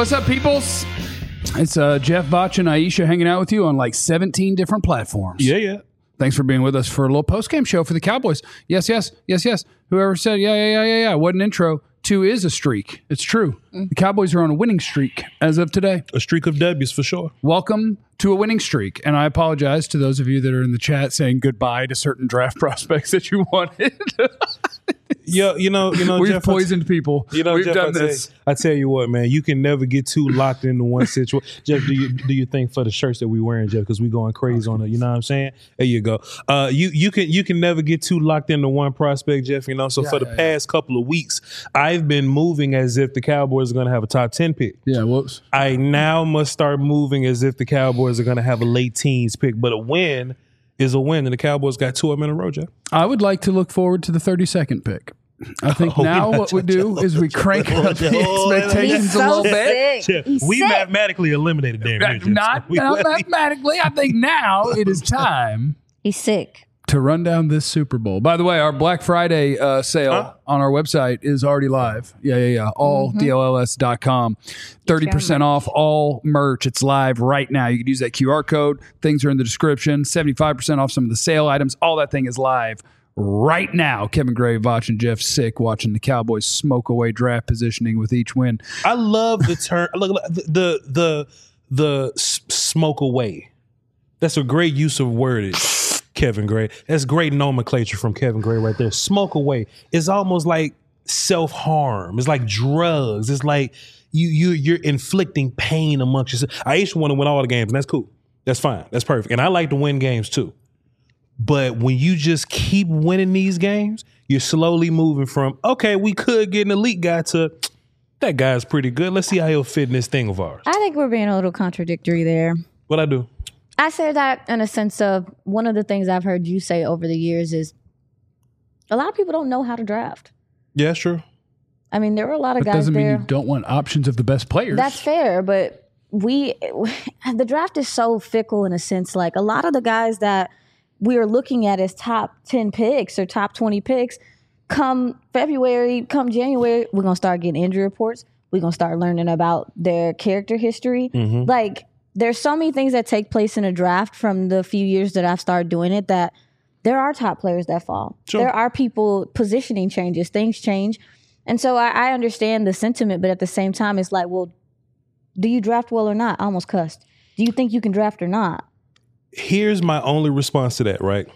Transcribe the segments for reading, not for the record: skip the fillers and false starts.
What's up, peoples? It's Jeff, Vach, and Aisha hanging out with you on like 17 different platforms. Yeah. Thanks for being with us for a little post-game show for the Cowboys. Yes. Whoever said, yeah. What an intro. 2 is a streak. It's true. The Cowboys are on a winning streak as of today. A streak of W's for sure. Welcome to a winning streak. And I apologize to those of you that are in the chat saying goodbye to certain draft prospects that you wanted. Yeah, you know, We've Jeff, poisoned people. We've Jeff, done this. I tell you what, man, you can never get too locked into one situation. Jeff, do you think for the shirts that we wearing, Jeff, because we going crazy on it, you know what I'm saying? There you go. You can never get too locked into one prospect, Jeff. You know, so for the past couple of weeks, I've been moving as if the Cowboys are going to have a top 10 pick. Yeah, whoops. I now must start moving as if the Cowboys are going to have a late teens pick, but a win is a win, and the Cowboys got 2 of them in a row, Jeff. I would like to look forward to the 32nd pick. I think now what we do is we crank up the expectations a little bit. Jeff, we mathematically eliminated Dan. Not mathematically. I think now it is time. He's sick. To run down this Super Bowl. By the way, our Black Friday sale on our website is already live. Yeah. All DLLS.com. 30% off all merch. It's live right now. You can use that QR code. Things are in the description. 75% off some of the sale items. All that thing is live right now. Kevin Gray, Vach, and Jeff Sick watching the Cowboys smoke away draft positioning with each win. I love the term. Look, the smoke away. That's a great use of wordage, Kevin Gray. That's great nomenclature from Kevin Gray right there. Smoke away. It's almost like self-harm. It's like drugs. It's like you're inflicting pain amongst yourself. I used to want to win all the games, and that's cool. That's fine. That's perfect. And I like to win games too. But when you just keep winning these games, you're slowly moving from, okay, we could get an elite guy to, that guy's pretty good. Let's see how he'll fit in this thing of ours. I think we're being a little contradictory there. What'd I do? I say that in a sense of one of the things I've heard you say over the years is a lot of people don't know how to draft. Yeah, sure. I mean, there are a lot of that guys doesn't there. mean you don't want options of the best players. That's fair, but the draft is so fickle in a sense. Like a lot of the guys that we are looking at as top 10 picks or top 20 picks, come February, come January, we're going to start getting injury reports. We're going to start learning about their character history. Mm-hmm. Like, there's so many things that take place in a draft from the few years that I've started doing it that there are top players that fall. Sure. There are people, positioning changes, things change. And so I understand the sentiment, but at the same time, it's like, well, do you draft well or not? I almost cussed. Do you think you can draft or not? Here's my only response to that, right?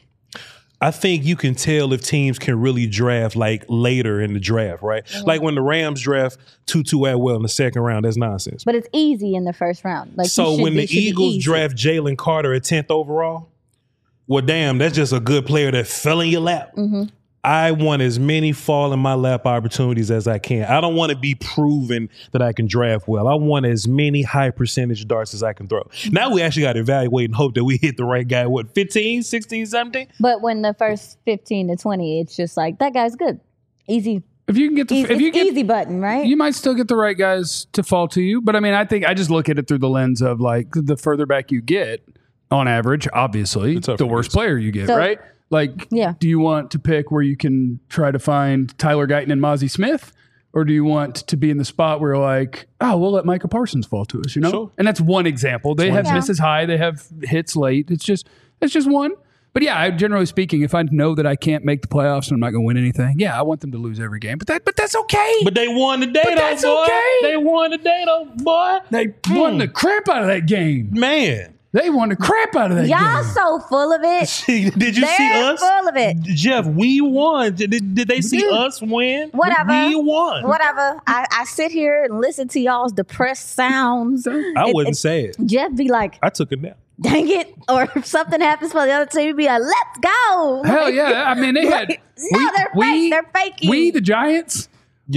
I think you can tell if teams can really draft like later in the draft, right? Mm-hmm. Like when the Rams draft Tutu Atwell in the second round, that's nonsense. But it's easy in the first round. Like so when the Eagles draft Jalen Carter at 10th overall, well, damn, that's just a good player that fell in your lap. Mm-hmm. I want as many fall in my lap opportunities as I can. I don't want to be proven that I can draft well. I want as many high percentage darts as I can throw. Now we actually got to evaluate and hope that we hit the right guy, 15, 16, 17? But when the first 15 to 20, it's just like, that guy's good. Easy. If you can get easy button, right? You might still get the right guys to fall to you. But I mean, I think I just look at it through the lens of like the further back you get, on average, obviously, the worse player you get, right? Like, do you want to pick where you can try to find Tyler Guyton and Mozzie Smith? Or do you want to be in the spot where you're like, oh, we'll let Micah Parsons fall to us, you know? Sure. And that's one example. They have misses high. They have hits late. It's just one. But yeah, generally speaking, if I know that I can't make the playoffs and I'm not going to win anything, I want them to lose every game. But that's okay. But they won the day, that's boy. Okay. They won the day, boy. They won the crap out of that game. Man. They won the crap out of that game. Y'all so full of it. Did you see us? Full of it. Jeff, we won. Did they see us win? Whatever. We won. Whatever. I sit here and listen to y'all's depressed sounds. I wouldn't say it. Jeff be like, I took a nap. Dang it. Or if something happens for the other team, be like, let's go. Hell yeah. I mean, they had. They're fake. They're faking. We, the Giants,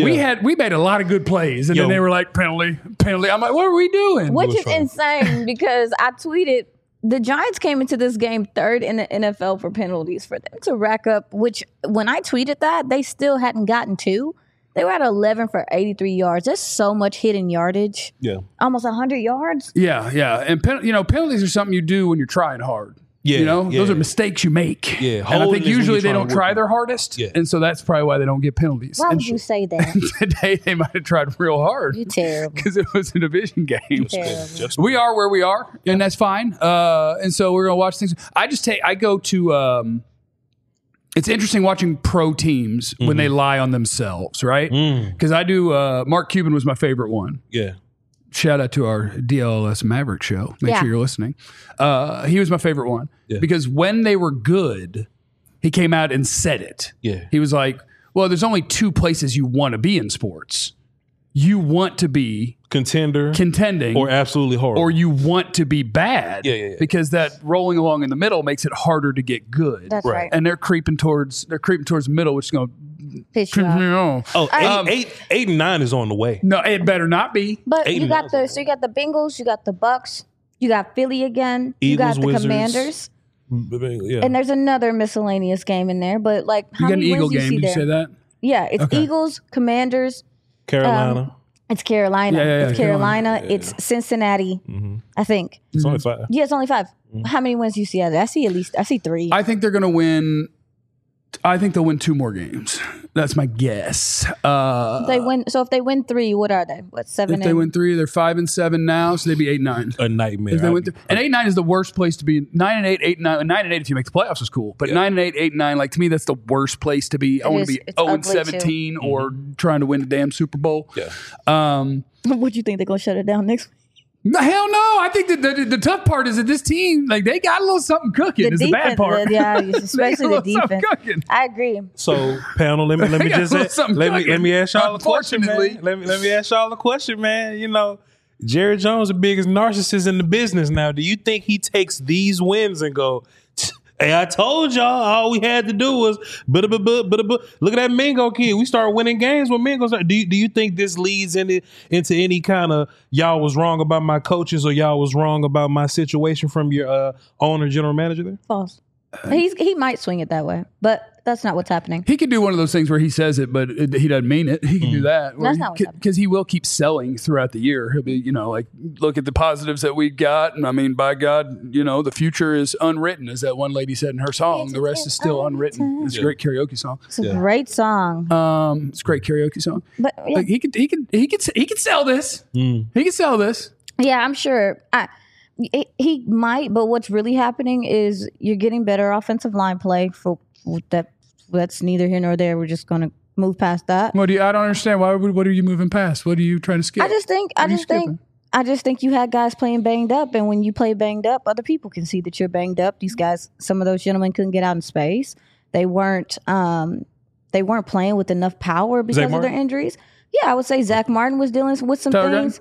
we made a lot of good plays. And then they were like, penalty. I'm like, what are we doing? Which is insane because I tweeted, the Giants came into this game third in the NFL for penalties. For them to rack up, which when I tweeted that, they still hadn't gotten 2. They were at 11 for 83 yards. That's so much hidden yardage. Yeah. Almost 100 yards. Yeah. And penalties are something you do when you're trying hard. Yeah, you know, yeah. those are mistakes you make. Yeah, and I holding think is when usually you're they trying don't to try work their it. hardest, Yeah. and so that's probably why they don't get penalties. Why And would you say that? today they might have tried real hard You're terrible. because it was a division game. Terrible. We are where we are, and that's fine. And so we're gonna watch things. I go to. It's interesting watching pro teams when they lie on themselves, right? Because I do. Mark Cuban was my favorite one. Yeah. Shout out to our DLLS Maverick show. Make Yeah. sure you're listening. He was my favorite one Yeah. because when they were good, he came out and said it. Yeah. He was like, well, there's only two places you want to be in sports. You want to be Contender contending or absolutely horrible. or you want to be bad. Yeah. Because that rolling along in the middle makes it harder to get good. That's Right. right. And they're creeping towards the middle, which is going Piss you off. to. eight and 9 is on the way. No, it better not be. But Eight you and got nine. you got the Bengals, you got the Bucks, you got Philly again, you Eagles, got the Wizards. Commanders, Yeah. and there's another miscellaneous game in there. But like, You how got an many Eagle wins do you game. see Did you there? say that? Yeah, it's Okay. Eagles, Commanders. Carolina. It's Carolina. Yeah, It's Carolina. It's Cincinnati. I think. It's only 5. Yeah, it's only 5. How many wins do you see out of that? I see 3. I think they're going to win. I think they'll win 2 more games. That's my guess. They win. So if they win 3, what are they? What 7? If they win 3, they're 5-7 now, so they'd be 8-9. A nightmare. If they win and 8-9 is the worst place to be. 9-8, 8-9, 9-8 if you make the playoffs is cool, but 9-8, 8-9, like to me, that's the worst place to be. I want to be It's ugly, 0-17 or trying to win the damn Super Bowl. Yeah. What do you think they're gonna shut it down next week? No, hell no. I think that the tough part is that this team, like they got a little something cooking. Is the bad part. Yeah, They got especially a the little something defense. cooking. I agree. So, panel, let me They got a just little something let cooking. me ask y'all a question, man. Unfortunately. Let me ask y'all a question, man. You know, Jerry Jones, the biggest narcissist in the business now. Do you think he takes these wins and go, hey, I told y'all all we had to do was look at that Mingo kid. We start winning games when Mingo's. Do you think this leads into any kind of y'all was wrong about my coaches or y'all was wrong about my situation from your owner, general manager there? False. He might swing it that way, but that's not what's happening. He could do one of those things where he says it, but he doesn't mean it. He can do that. That's not what's happening. Because he will keep selling throughout the year. He'll be, you know, like, look at the positives that we got. And I mean, by God, you know, the future is unwritten, as that one lady said in her song. The rest is still unwritten. It's a great karaoke song. It's a great song. It's a great karaoke song. But yeah, Like he could sell this. He could sell this. yeah, I'm sure. He might, but what's really happening is you're getting better offensive line play for that. That's neither here nor there. We're just going to move past that. I don't understand. What are you moving past? What are you trying to skip? I just think you had guys playing banged up, and when you play banged up, other people can see that you're banged up. These guys, some of those gentlemen couldn't get out in space. They weren't playing with enough power because of their injuries. Yeah, I would say Zach Martin was dealing with some Tyler things.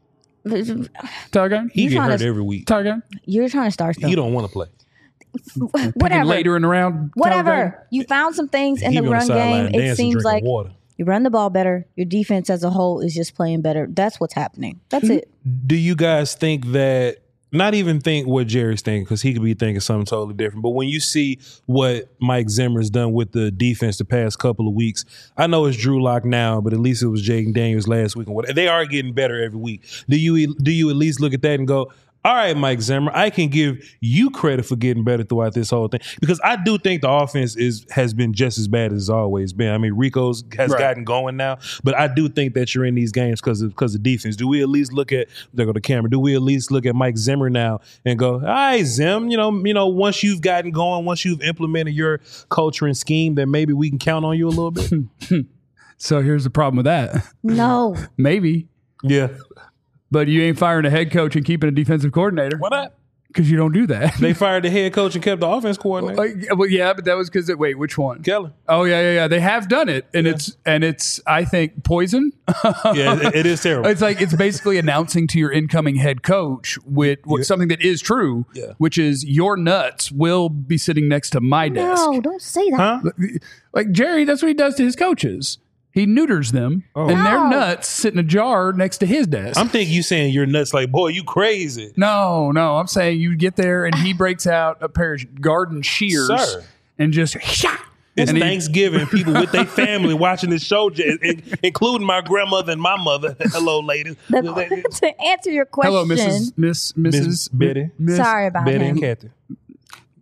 Tiger? He You're get trying hurt to- every week. Tiger? You're trying to start stuff. He don't want to play. Whatever. Later in the round? Whatever. You found some things in He the be on run sideline game. It dancing, seems drinking like water. you run the ball better. Your defense as a whole is just playing better. That's what's happening. That's it. Do you guys think that? Not even think what Jerry's thinking, because he could be thinking something totally different. But when you see what Mike Zimmer's done with the defense the past couple of weeks, I know it's Drew Lock now, but at least it was Jaden Daniels last week. And what they are getting better every week. Do you at least look at that and go, all right, Mike Zimmer, I can give you credit for getting better throughout this whole thing, because I do think the offense has been just as bad as it's always been. I mean, Rico's has gotten going now, but I do think that you're in these games because of defense. Do we at least look at there go the camera? Do we at least look at Mike Zimmer now and go, all right, Zim, you know, once you've gotten going, once you've implemented your culture and scheme, then maybe we can count on you a little bit. So here's the problem with that. No. Maybe. Yeah, But you ain't firing a head coach and keeping a defensive coordinator. why not? Because you don't do that. They fired the head coach and kept the offense coordinator. Well, yeah, but that was because wait, which one? Keller. Oh yeah. They have done it, and it's I think poison. Yeah, it is terrible. It's like it's basically announcing to your incoming head coach with something that is true, which is your nuts will be sitting next to my desk. No, don't say that. Huh? Like Jerry, that's what he does to his coaches. He neuters them, and their nuts sit in a jar next to his desk. I'm thinking you saying you're nuts. Like, boy, you crazy. No, I'm saying you get there and he breaks out a pair of garden shears Sir. and just It's and he- Thanksgiving. People with their family watching this show, including my grandmother and my mother. Hello, ladies. To answer your question. Hello, Mrs. Betty. Sorry about Betty him. and Kathy.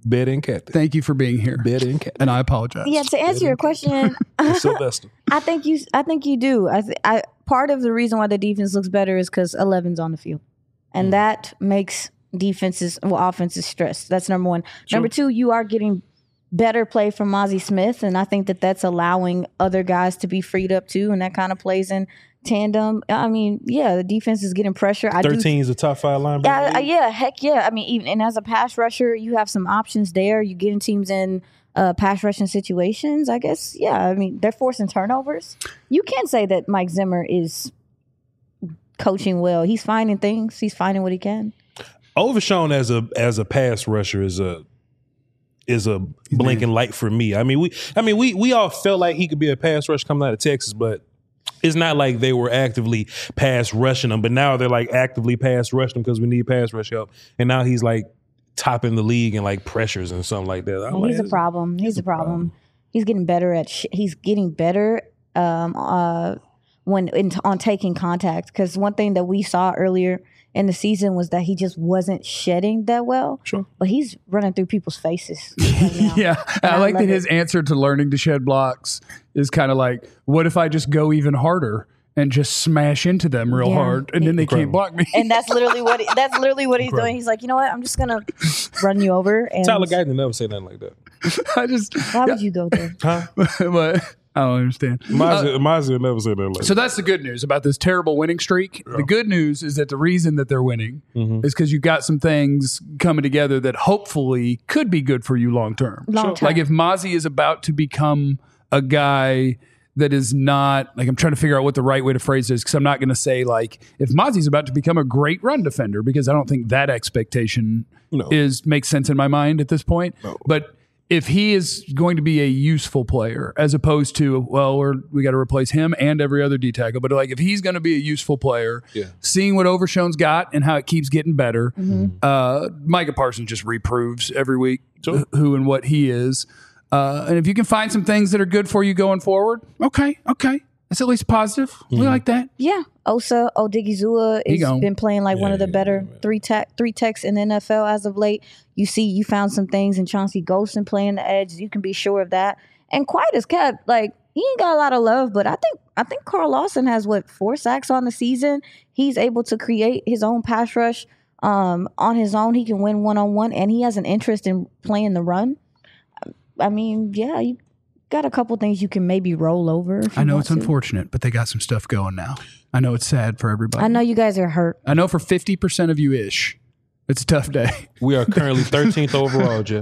Better than Kathy. Thank you for being here. Better than Kathy. And I apologize. Yeah, to answer your question, Sylvester. I think you do. I part of the reason why the defense looks better is because 11's on the field, and that makes offenses stressed. That's number one. Number two, you are getting better play from Mozzie Smith, and I think that's allowing other guys to be freed up too, and that kind of plays in tandem. I mean, yeah, the defense is getting pressure. 13 is a top 5 linebacker. Yeah, heck yeah. I mean, even and as a pass rusher, you have some options there. You getting teams in pass rushing situations. I guess, yeah. I mean, they're forcing turnovers. You can't say that Mike Zimmer is coaching well. He's finding things. He's finding what he can. Overshown as a pass rusher is a blinking light for me. I mean, we all felt like he could be a pass rush coming out of Texas, but it's not like they were actively pass rushing him. But now they're like actively pass rushing him because we need pass rush help. And now he's like topping the league in like pressures and something like that. He's a problem. He's a problem. He's getting better on taking contact, because one thing that we saw earlier in the season was that he just wasn't shedding that well. Sure. But he's running through people's faces right now. Yeah. I like that his answer to learning to shed blocks is kind of like, what if I just go even harder and just smash into them real hard, and then they can't block me? And that's literally what he's doing. He's like, you know what? I'm just gonna run you over. And Tyler Guyton never say nothing like that. Why would you go there? Huh? But I don't understand. Mazia never said that like So that's the good news about this terrible winning streak. Yeah. The good news is that the reason that they're winning is because you've got some things coming together that hopefully could be good for you long term. Like if Mozzie is about to become a guy that is not, like, I'm trying to figure out what the right way to phrase this, because I'm not going to say like if Mozzie's about to become a great run defender, because I don't think that expectation makes sense in my mind at this point. No. But if he is going to be a useful player, as opposed to, well, we got to replace him and every other D tackle, but like if he's going to be a useful player, seeing what Overshown's got and how it keeps getting better, Micah Parsons just reproves every week who and what he is. And if you can find some things that are good for you going forward, okay. That's at least positive. We like that. Yeah. Osa Odigizua has been playing like one of the better three techs in the NFL as of late. You found some things in Chauncey Golston playing the edge. You can be sure of that. And Quiet is kept, like, he ain't got a lot of love, but I think Carl Lawson has 4 sacks on the season. He's able to create his own pass rush on his own. He can win one-on-one, and he has an interest in playing the run. I mean, yeah, you got a couple things you can maybe roll over. I know it's unfortunate, but they got some stuff going now. I know it's sad for everybody. I know you guys are hurt. I know for 50% of you ish, it's a tough day. We are currently 13th overall, Jeff.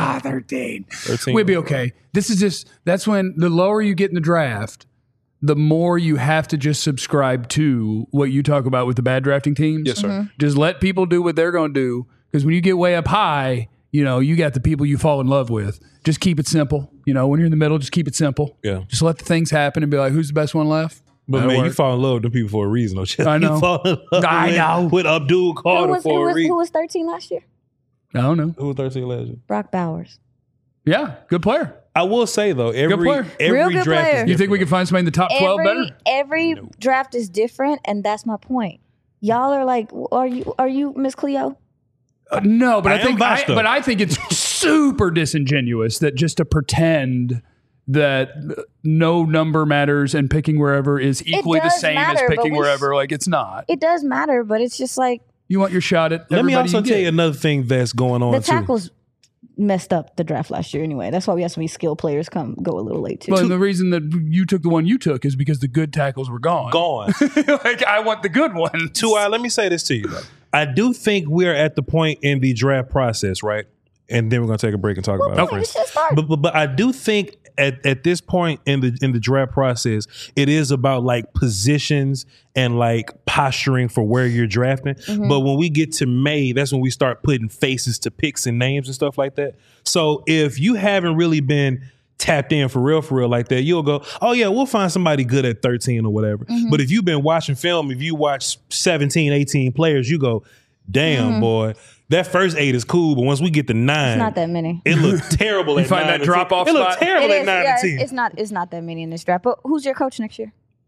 13. We'll be okay. That's when the lower you get in the draft, the more you have to just subscribe to what you talk about with the bad drafting teams. Yes, sir. Mm-hmm. Just let people do what they're going to do, because when you get way up high, you got the people you fall in love with. Just keep it simple. When you're in the middle, just keep it simple. Yeah. Just let the things happen and be like, who's the best one left? But That'll man, work. you fall in love with them people for a reason. I know. You fall in love with Abdul Carter for a reason. Who was 13 last year? I don't know. Who was 13 last year? Brock Bowers. Yeah, good player. I will say though, every Real good draft player. is You think we can find somebody in the top 12 better? Every draft is different, and that's my point. Y'all are like, are you Miss Cleo? No, but I think it's super disingenuous that just to pretend that no number matters and picking wherever is equally the same as picking wherever. Like, it's not. It does matter, but it's just like, you want your shot at everybody. Let me also tell you another thing that's going on. The tackles messed up the draft last year anyway. That's why we had so many skilled players go a little late too. Well, the reason that you took the one you took is because the good tackles were gone. Like, I want the good one. Let me say this to you. I do think we're at the point in the draft process, right? And then we're going to take a break and talk about it. But I do think at this point in the draft process, it is about like positions and like posturing for where you're drafting. Mm-hmm. But when we get to May, that's when we start putting faces to picks and names and stuff like that. So if you haven't really been tapped in for real like that, you'll go, oh yeah, we'll find somebody good at 13 or whatever. Mm-hmm. But if you've been watching film, if you watch 17, 18 players, you go, damn, boy, that first 8 is cool, but once we get to 9, it's not that many. It looks terrible. You at find 9 that drop off. It looks terrible at 9 and 10. It's not that many in this draft. But who's your coach next year?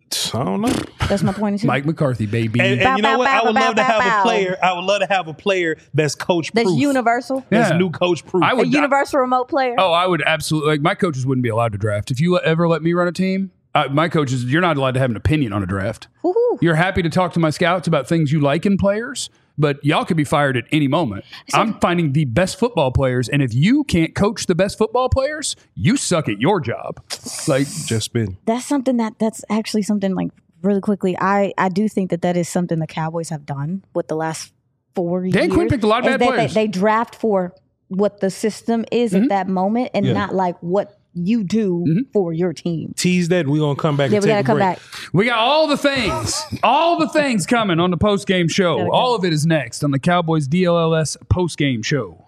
I don't know. That's my 22. Mike McCarthy, baby. And Bow, you know bow, what? bow, I would bow, love to bow, have bow. a player. I would love to have a player that's coach proof. That's universal. That's Yeah. new coach proof. I A would universal remote player. Oh, I would absolutely. Like, my coaches wouldn't be allowed to draft. If you ever let me run a team, my coaches, you're not allowed to have an opinion on a draft. Woo-hoo. You're happy to talk to my scouts about things you like in players, but y'all could be fired at any moment. I'm finding the best football players, and if you can't coach the best football players, you suck at your job. Like, just been. That's something that's actually something like really quickly. I do think that is something the Cowboys have done with the last 4 years. Dan Quinn picked a lot of is bad that players. They draft for what the system is at that moment and Yeah. not like what you do for your team. Tease that. We're going to come back Yeah, and we take gotta a come break. back. we got all the things coming on the post-game show. Gotta go. All of it is next on the Cowboys DLLS post-game show.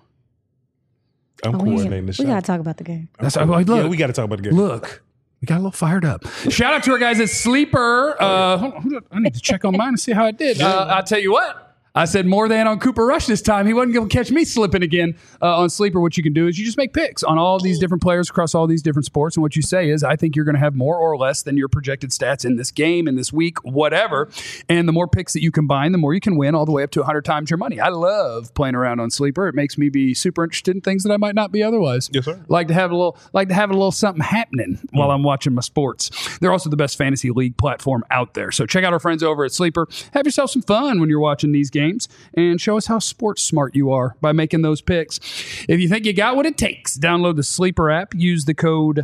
I'm We coordinating this show. gotta talk about the game. That's look, Yeah, we got to talk about the game. Look, we got a little fired up. Shout out to our guys at Sleeper. Hold on, I need to check on mine and see how I did. I'll tell you what. I said more than on Cooper Rush this time. He wasn't going to catch me slipping again on Sleeper. What you can do is you just make picks on all these different players across all these different sports. And what you say is, I think you're going to have more or less than your projected stats in this game, in this week, whatever. And the more picks that you combine, the more you can win, all the way up to 100 times your money. I love playing around on Sleeper. It makes me be super interested in things that I might not be otherwise. Yes, sir. Like to have a little something happening while I'm watching my sports. They're also the best fantasy league platform out there. So check out our friends over at Sleeper. Have yourself some fun when you're watching these games, and show us how sports smart you are by making those picks. If you think you got what it takes, download the Sleeper app, use the code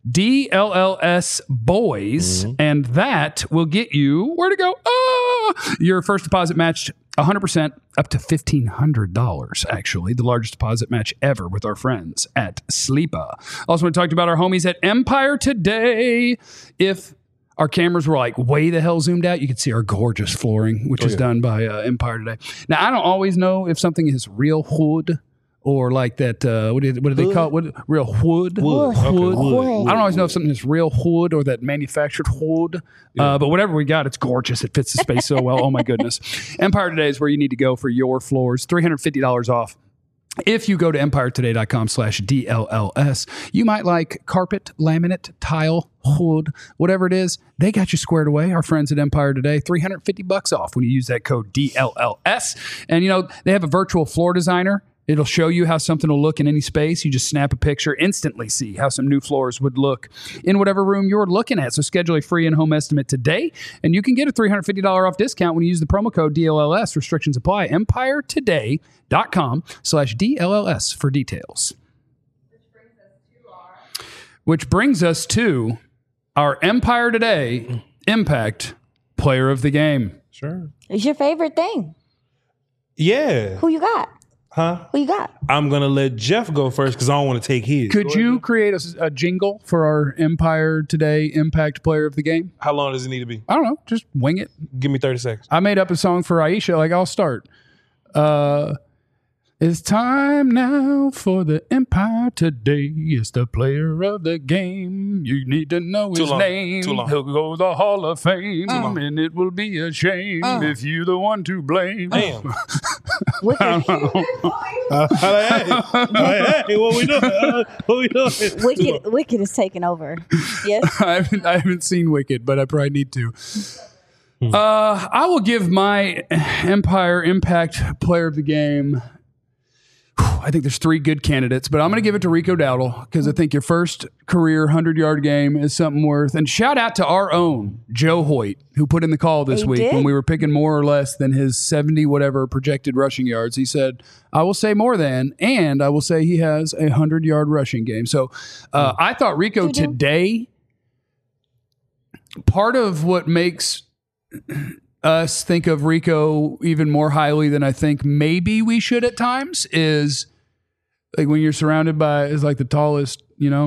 DLLS Boys, and that will get you where to go. Your first deposit matched 100% up to $1,500, actually, the largest deposit match ever with our friends at Sleeper. Also, want to talk about our homies at Empire Today. If our cameras were like way the hell zoomed out, you could see our gorgeous flooring, which is done by Empire Today. Now, I don't always know if something is real wood or like that. What do they call it? Real wood. Wood. Okay, wood. I don't always know if something is real wood or that manufactured wood. But whatever we got, it's gorgeous. It fits the space so well. Oh my goodness. Empire Today is where you need to go for your floors. $350 off. If you go to empirettoday.com/DLLS, you might like carpet, laminate, tile, wood, whatever it is. They got you squared away. Our friends at Empire Today, $350 off when you use that code DLLS. And, you know, they have a virtual floor designer. It'll show you how something will look in any space. You just snap a picture, instantly see how some new floors would look in whatever room you're looking at. So schedule a free in-home estimate today, and you can get a $350 off discount when you use the promo code DLLS. Restrictions apply. EmpireToday.com/DLLS for details. Which brings us to our Empire Today Impact Player of the Game. Sure. It's your favorite thing. Yeah. Who you got? Huh? Who you got? I'm going to let Jeff go first because I don't want to take his. Could you create a jingle for our Empire Today Impact Player of the Game? How long does it need to be? I don't know. Just wing it. Give me 30 seconds. I made up a song for Aisha. Like, I'll start. It's time now for the Empire Today. It's the player of the game. You need to know his long. name. Too long. He'll go to the Hall of Fame, and it will be a shame if you're the one to blame. Damn. Wicked, Hey, what we doing? What we doing? Wicked is taking over. Yes. I haven't seen Wicked, but I probably need to. I will give my Empire Impact Player of the Game. I think there's 3 good candidates, but I'm going to give it to Rico Dowdle because I think your first career 100-yard game is something worth. And shout out to our own Joe Hoyt, who put in the call this He week did? when we were picking more or less than his 70 whatever projected rushing yards. He said, I will say more than, and I will say he has a 100-yard rushing game. So I thought Rico today, part of what makes us think of Rico even more highly than I think maybe we should at times is like when you're surrounded by is like the tallest,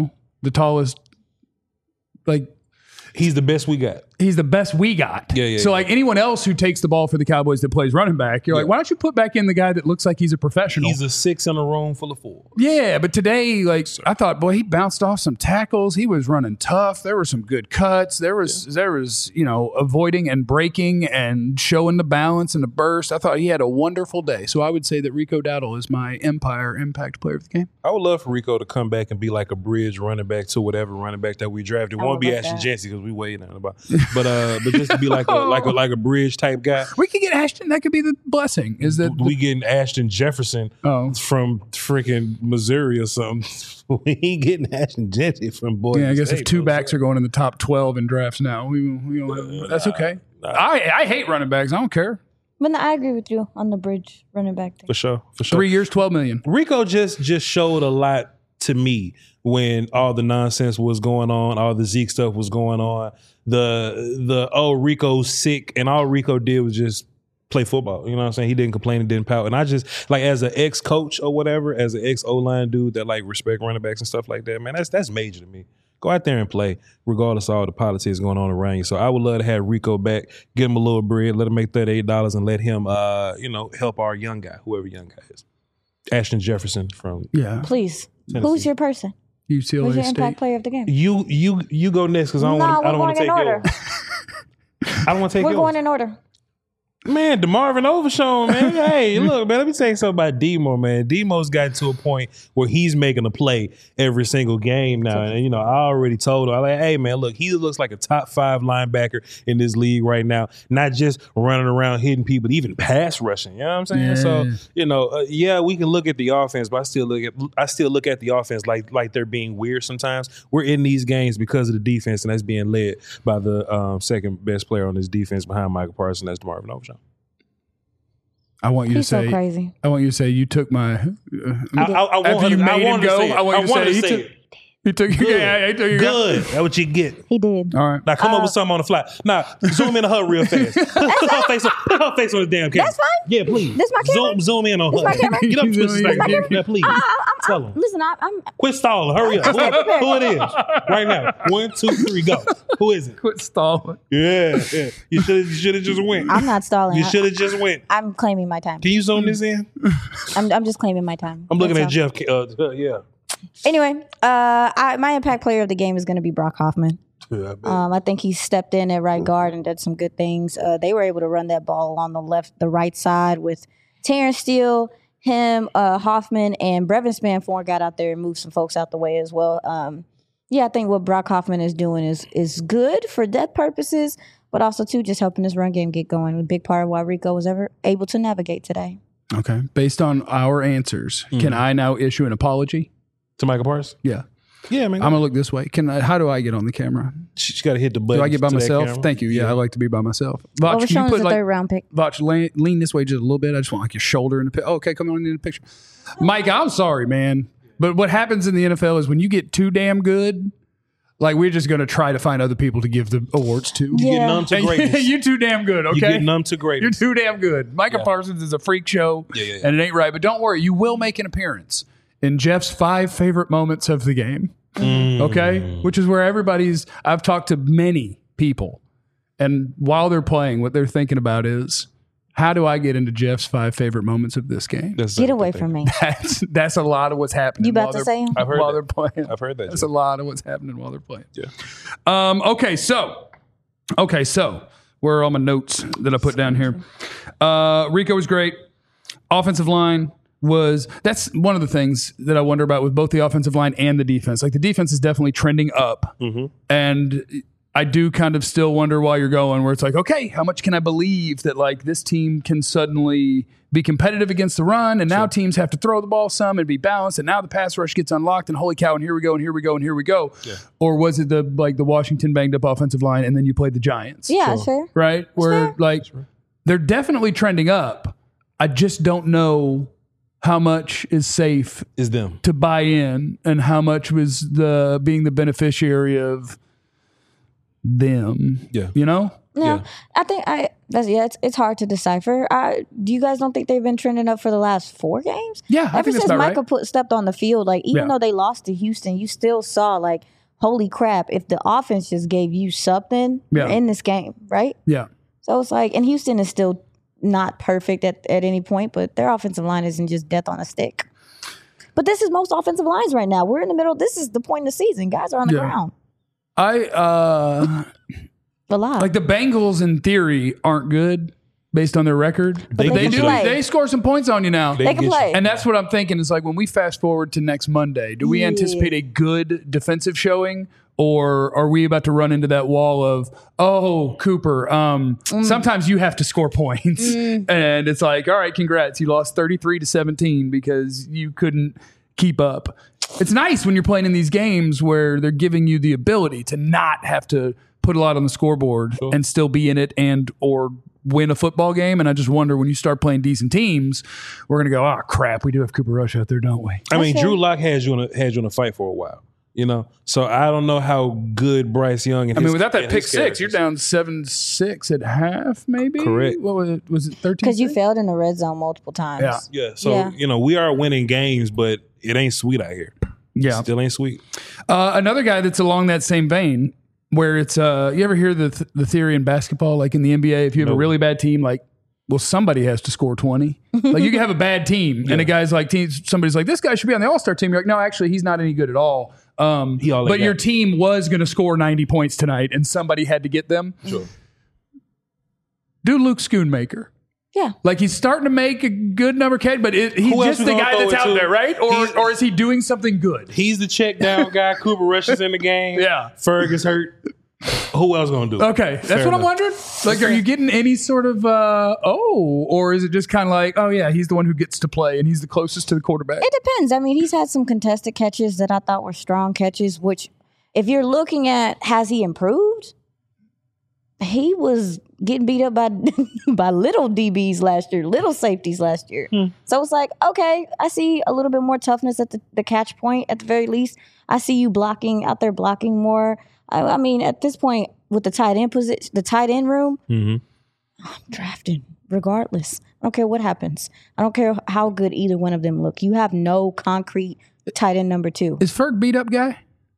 like He's the best we got. he's the best we got. Yeah. So like anyone else who takes the ball for the Cowboys that plays running back, you're like, why don't you put back in the guy that looks like he's a professional? He's a 6 in a room full of 4. Yeah, but today, like I thought, boy, he bounced off some tackles. He was running tough. There were some good cuts. There was, avoiding and breaking and showing the balance and the burst. I thought he had a wonderful day. So I would say that Rico Dowdle is my Empire Impact Player of the Game. I would love for Rico to come back and be like a bridge running back to whatever running back that we drafted. It won't be love Ashton that. Jancy because we waiting on about. but just to be like a bridge type guy. We could get Ashton. That could be the blessing. Is that We getting Ashton Jefferson from freaking Missouri or something. We ain't getting Ashton Jeanty from Boise. Yeah, I guess State, if two bro. backs are going in the top 12 in drafts now, we don't have, that's okay. I hate running backs. I don't care. But I agree with you on the bridge running back thing. For sure. 3 years, $12 million. Rico just showed a lot to me when all the nonsense was going on, all the Zeke stuff was going on. The Rico's sick, and all Rico did was just play football. You know what I'm saying? He didn't complain and didn't pout. And I just, like, as an ex-coach or whatever, as an ex-O-line dude that, like, respect running backs and stuff like that, man, that's major to me. Go out there and play, regardless of all the politics going on around you. So I would love to have Rico back, get him a little bread, let him make $38 and let him, help our young guy, whoever young guy is. Ashton Jefferson from Please. Tennessee. Who's your person? UCLA Who's your State. impact player of the game? You go next because I don't want to take order. yours. I don't want to take We're yours. going in order. Man, DeMarvin Overshown, man. Hey, look, man, let me tell you something about Demo, man. Demo's gotten to a point where he's making a play every single game now. And, I already told him, hey, man, look, he looks like a top 5 linebacker in this league right now. Not just running around hitting people, but even pass rushing. You know what I'm saying? Yeah. So, we can look at the offense, but I still look at the offense like they're being weird sometimes. We're in these games because of the defense, and that's being led by the second best player on this defense behind Michael Parsons. That's DeMarvin Overshown. I want you He's to say. so crazy. I want you to say you took my. I after you made him go, I want you to say to he say took. He took your guy. He took your guy. Good. That's what you get. He did. All right. Now come up with something on the fly. Now zoom in on her real fast. Put her face on the damn camera. That's fine. Yeah, please. This my camera? Zoom in on This her. my camera? Get up, This Twisted my Snake. camera? Now, please. Tell them. Listen, I'm Quit stalling. Hurry up. Who it is? Right now. 1, 2, 3, go. Who is it? Quit stalling. Yeah. You should have just went. I'm not stalling. You should have just went. I'm claiming my time. Can you zoom this in? I'm just claiming my time. I'm looking That's at all. Jeff. Yeah. Anyway, my impact player of the game is going to be Brock Hoffman. Yeah, I bet. I think he stepped in at right guard and did some good things. They were able to run that ball on the right side with Terrence Steele, him, Hoffman, and Brevin Spanforth got out there and moved some folks out the way as well. I think what Brock Hoffman is doing is good for depth purposes, but also too just helping this run game get going. A big part of why Rico was ever able to navigate today. Okay. Based on our answers, can I now issue an apology? To Michael Parsons? Yeah. Yeah, man. I'm gonna look this way. How do I get on the camera? She's got to hit the button. Do I get by to that myself? camera. Thank you. Yeah, I like to be by myself. Vach, can Overshown you is put a like third round pick. Vach, lean this way just a little bit. I just want like your shoulder in the picture. Okay, come on in the picture. Mike, I'm sorry, man. But what happens in the NFL is when you get too damn good, like we're just gonna try to find other people to give the awards to. You get numb to greatness. You're too damn good, okay? You get numb to You're greatness. too damn good. Micah Parsons is a freak show, and it ain't right. But don't worry, you will make an appearance in Jeff's 5 favorite moments of the game. Okay? Which is where I've talked to many people, and while they're playing, what they're thinking about is, how do I get into Jeff's 5 favorite moments of this game? Get away from me. That's a lot of what's happening. You about while to they're- say 'em? I've heard while that. they're playing. I've heard that, That's Jeff. a lot of what's happening while they're playing. Yeah. Okay, so where are all my notes that I put down here? Rico was great. Offensive line that's one of the things that I wonder about with both the offensive line and the defense. Like the defense is definitely trending up, and I do kind of still wonder why you're going where it's like, okay, how much can I believe that like this team can suddenly be competitive against the run, and now teams have to throw the ball some and be balanced, and now the pass rush gets unlocked, and holy cow, and here we go, and here we go, and here we go. Yeah. Or was it the Washington banged up offensive line, and then you played the Giants? Yeah, that's fair. Right? Where they're definitely trending up. I just don't know how much is safe Is them. to buy in, and how much was being the beneficiary of them. Yeah. You know? No, I think it's hard to decipher. Do you guys don't think they've been trending up for the last 4 games? Yeah, I ever think that's since about Michael right. stepped on the field, like even Yeah. though they lost to Houston, you still saw like, holy crap! If the offense just gave you something, you're in this game, right? Yeah. So it's like, and Houston is still not perfect at any point, but their offensive line isn't just death on a stick. But this is most offensive lines right now. We're in the middle. This is the point of the season. Guys are on the ground. I A lot. like the Bengals in theory aren't good, based on their record. They can do. play. They score some points on you now. They can play. And that's what I'm thinking is like when we fast forward to next Monday, do we anticipate a good defensive showing? Or are we about to run into that wall of, oh, Cooper, sometimes you have to score points. And it's like, all right, congrats. You lost 33-17 because you couldn't keep up. It's nice when you're playing in these games where they're giving you the ability to not have to put a lot on the scoreboard and still be in it and or win a football game. And I just wonder when you start playing decent teams, we're going to go, oh, crap, we do have Cooper Rush out there, don't we? I mean, Drew Lock had you in a fight for a while. You know, so I don't know how good Bryce Young. And without that pick six, you're down 7-6 at half, maybe. Correct. What was it? Was it 13? Because you failed in the red zone multiple times. Yeah. So we are winning games, but it ain't sweet out here. Yeah, still ain't sweet. Another guy that's along that same vein, where it's you ever hear the theory in basketball, like in the NBA, if you have a really bad team, like. Well, somebody has to score 20. Like you can have a bad team, and a guy's like, somebody's like, this guy should be on the All-Star team. You're like, no, actually, he's not any good at all. But your team was going to score 90 points tonight, and somebody had to get them. Sure. Do Luke Schoonmaker. Yeah. Like he's starting to make a good number, Kate, but he's just the guy that's out there, right? Or is he doing something good? He's the check down guy. Cooper Rush is in the game. Yeah. Ferg is hurt. Who else going to do it? Okay, that's what I'm wondering. Like, are you getting any sort of, or is it just kind of like, oh, yeah, he's the one who gets to play and he's the closest to the quarterback? It depends. I mean, he's had some contested catches that I thought were strong catches, which if you're looking at has he improved, he was getting beat up by by little DBs last year, little safeties last year. So it's like, okay, I see a little bit more toughness at the catch point at the very least. I see you out there blocking more. I mean, at this point, with the tight end position, the tight end room, I'm drafting regardless. I don't care what happens. I don't care how good either one of them look. You have no concrete tight end number 2. Is Ferg beat up guy?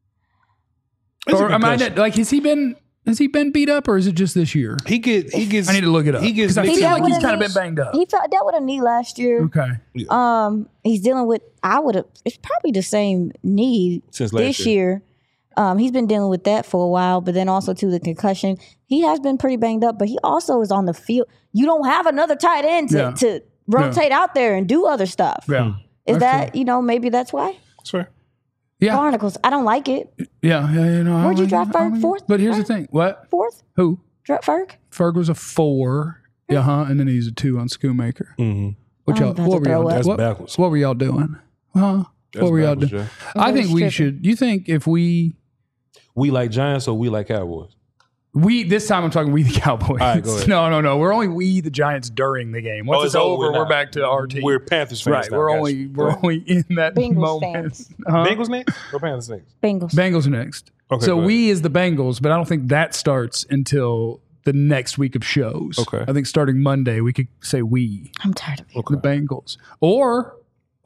Or am I like has he been beat up or is it just this year? He gets. I need to look it up. Because I feel like he's kind of been banged up. He dealt with a knee last year. Okay. He's dealing with it's probably the same knee Since last this year. He's been dealing with that for a while, but then also to the concussion. He has been pretty banged up, but he also is on the field. You don't have another tight end to rotate out there and do other stuff. Yeah. Is that, maybe that's why? That's fair. Yeah. Barnacles. I don't like it. Yeah. Where'd you draft Ferg? 4th? But here's the thing. What? 4th? Who? Ferg? Ferg was a 4. And then he's a 2 on Schoonmaker. Mm-hmm. What were y'all That's backwards. What were y'all doing? What were y'all doing? Jay. I think we should. You think if we like Giants or we like Cowboys? This time I'm talking we the Cowboys. All right, go ahead. No. We're only we the Giants during the game. Once it's over, we're back to our team. We're Panthers fans. Right. Now, We're only in that Bengals moment. fans. Bengals next or Panthers next? Bengals. Are next. Okay, so go ahead. we is the Bengals, but I don't think that starts until the next week of shows. Okay. I think starting Monday we could say we. I'm tired of it. The Bengals. Or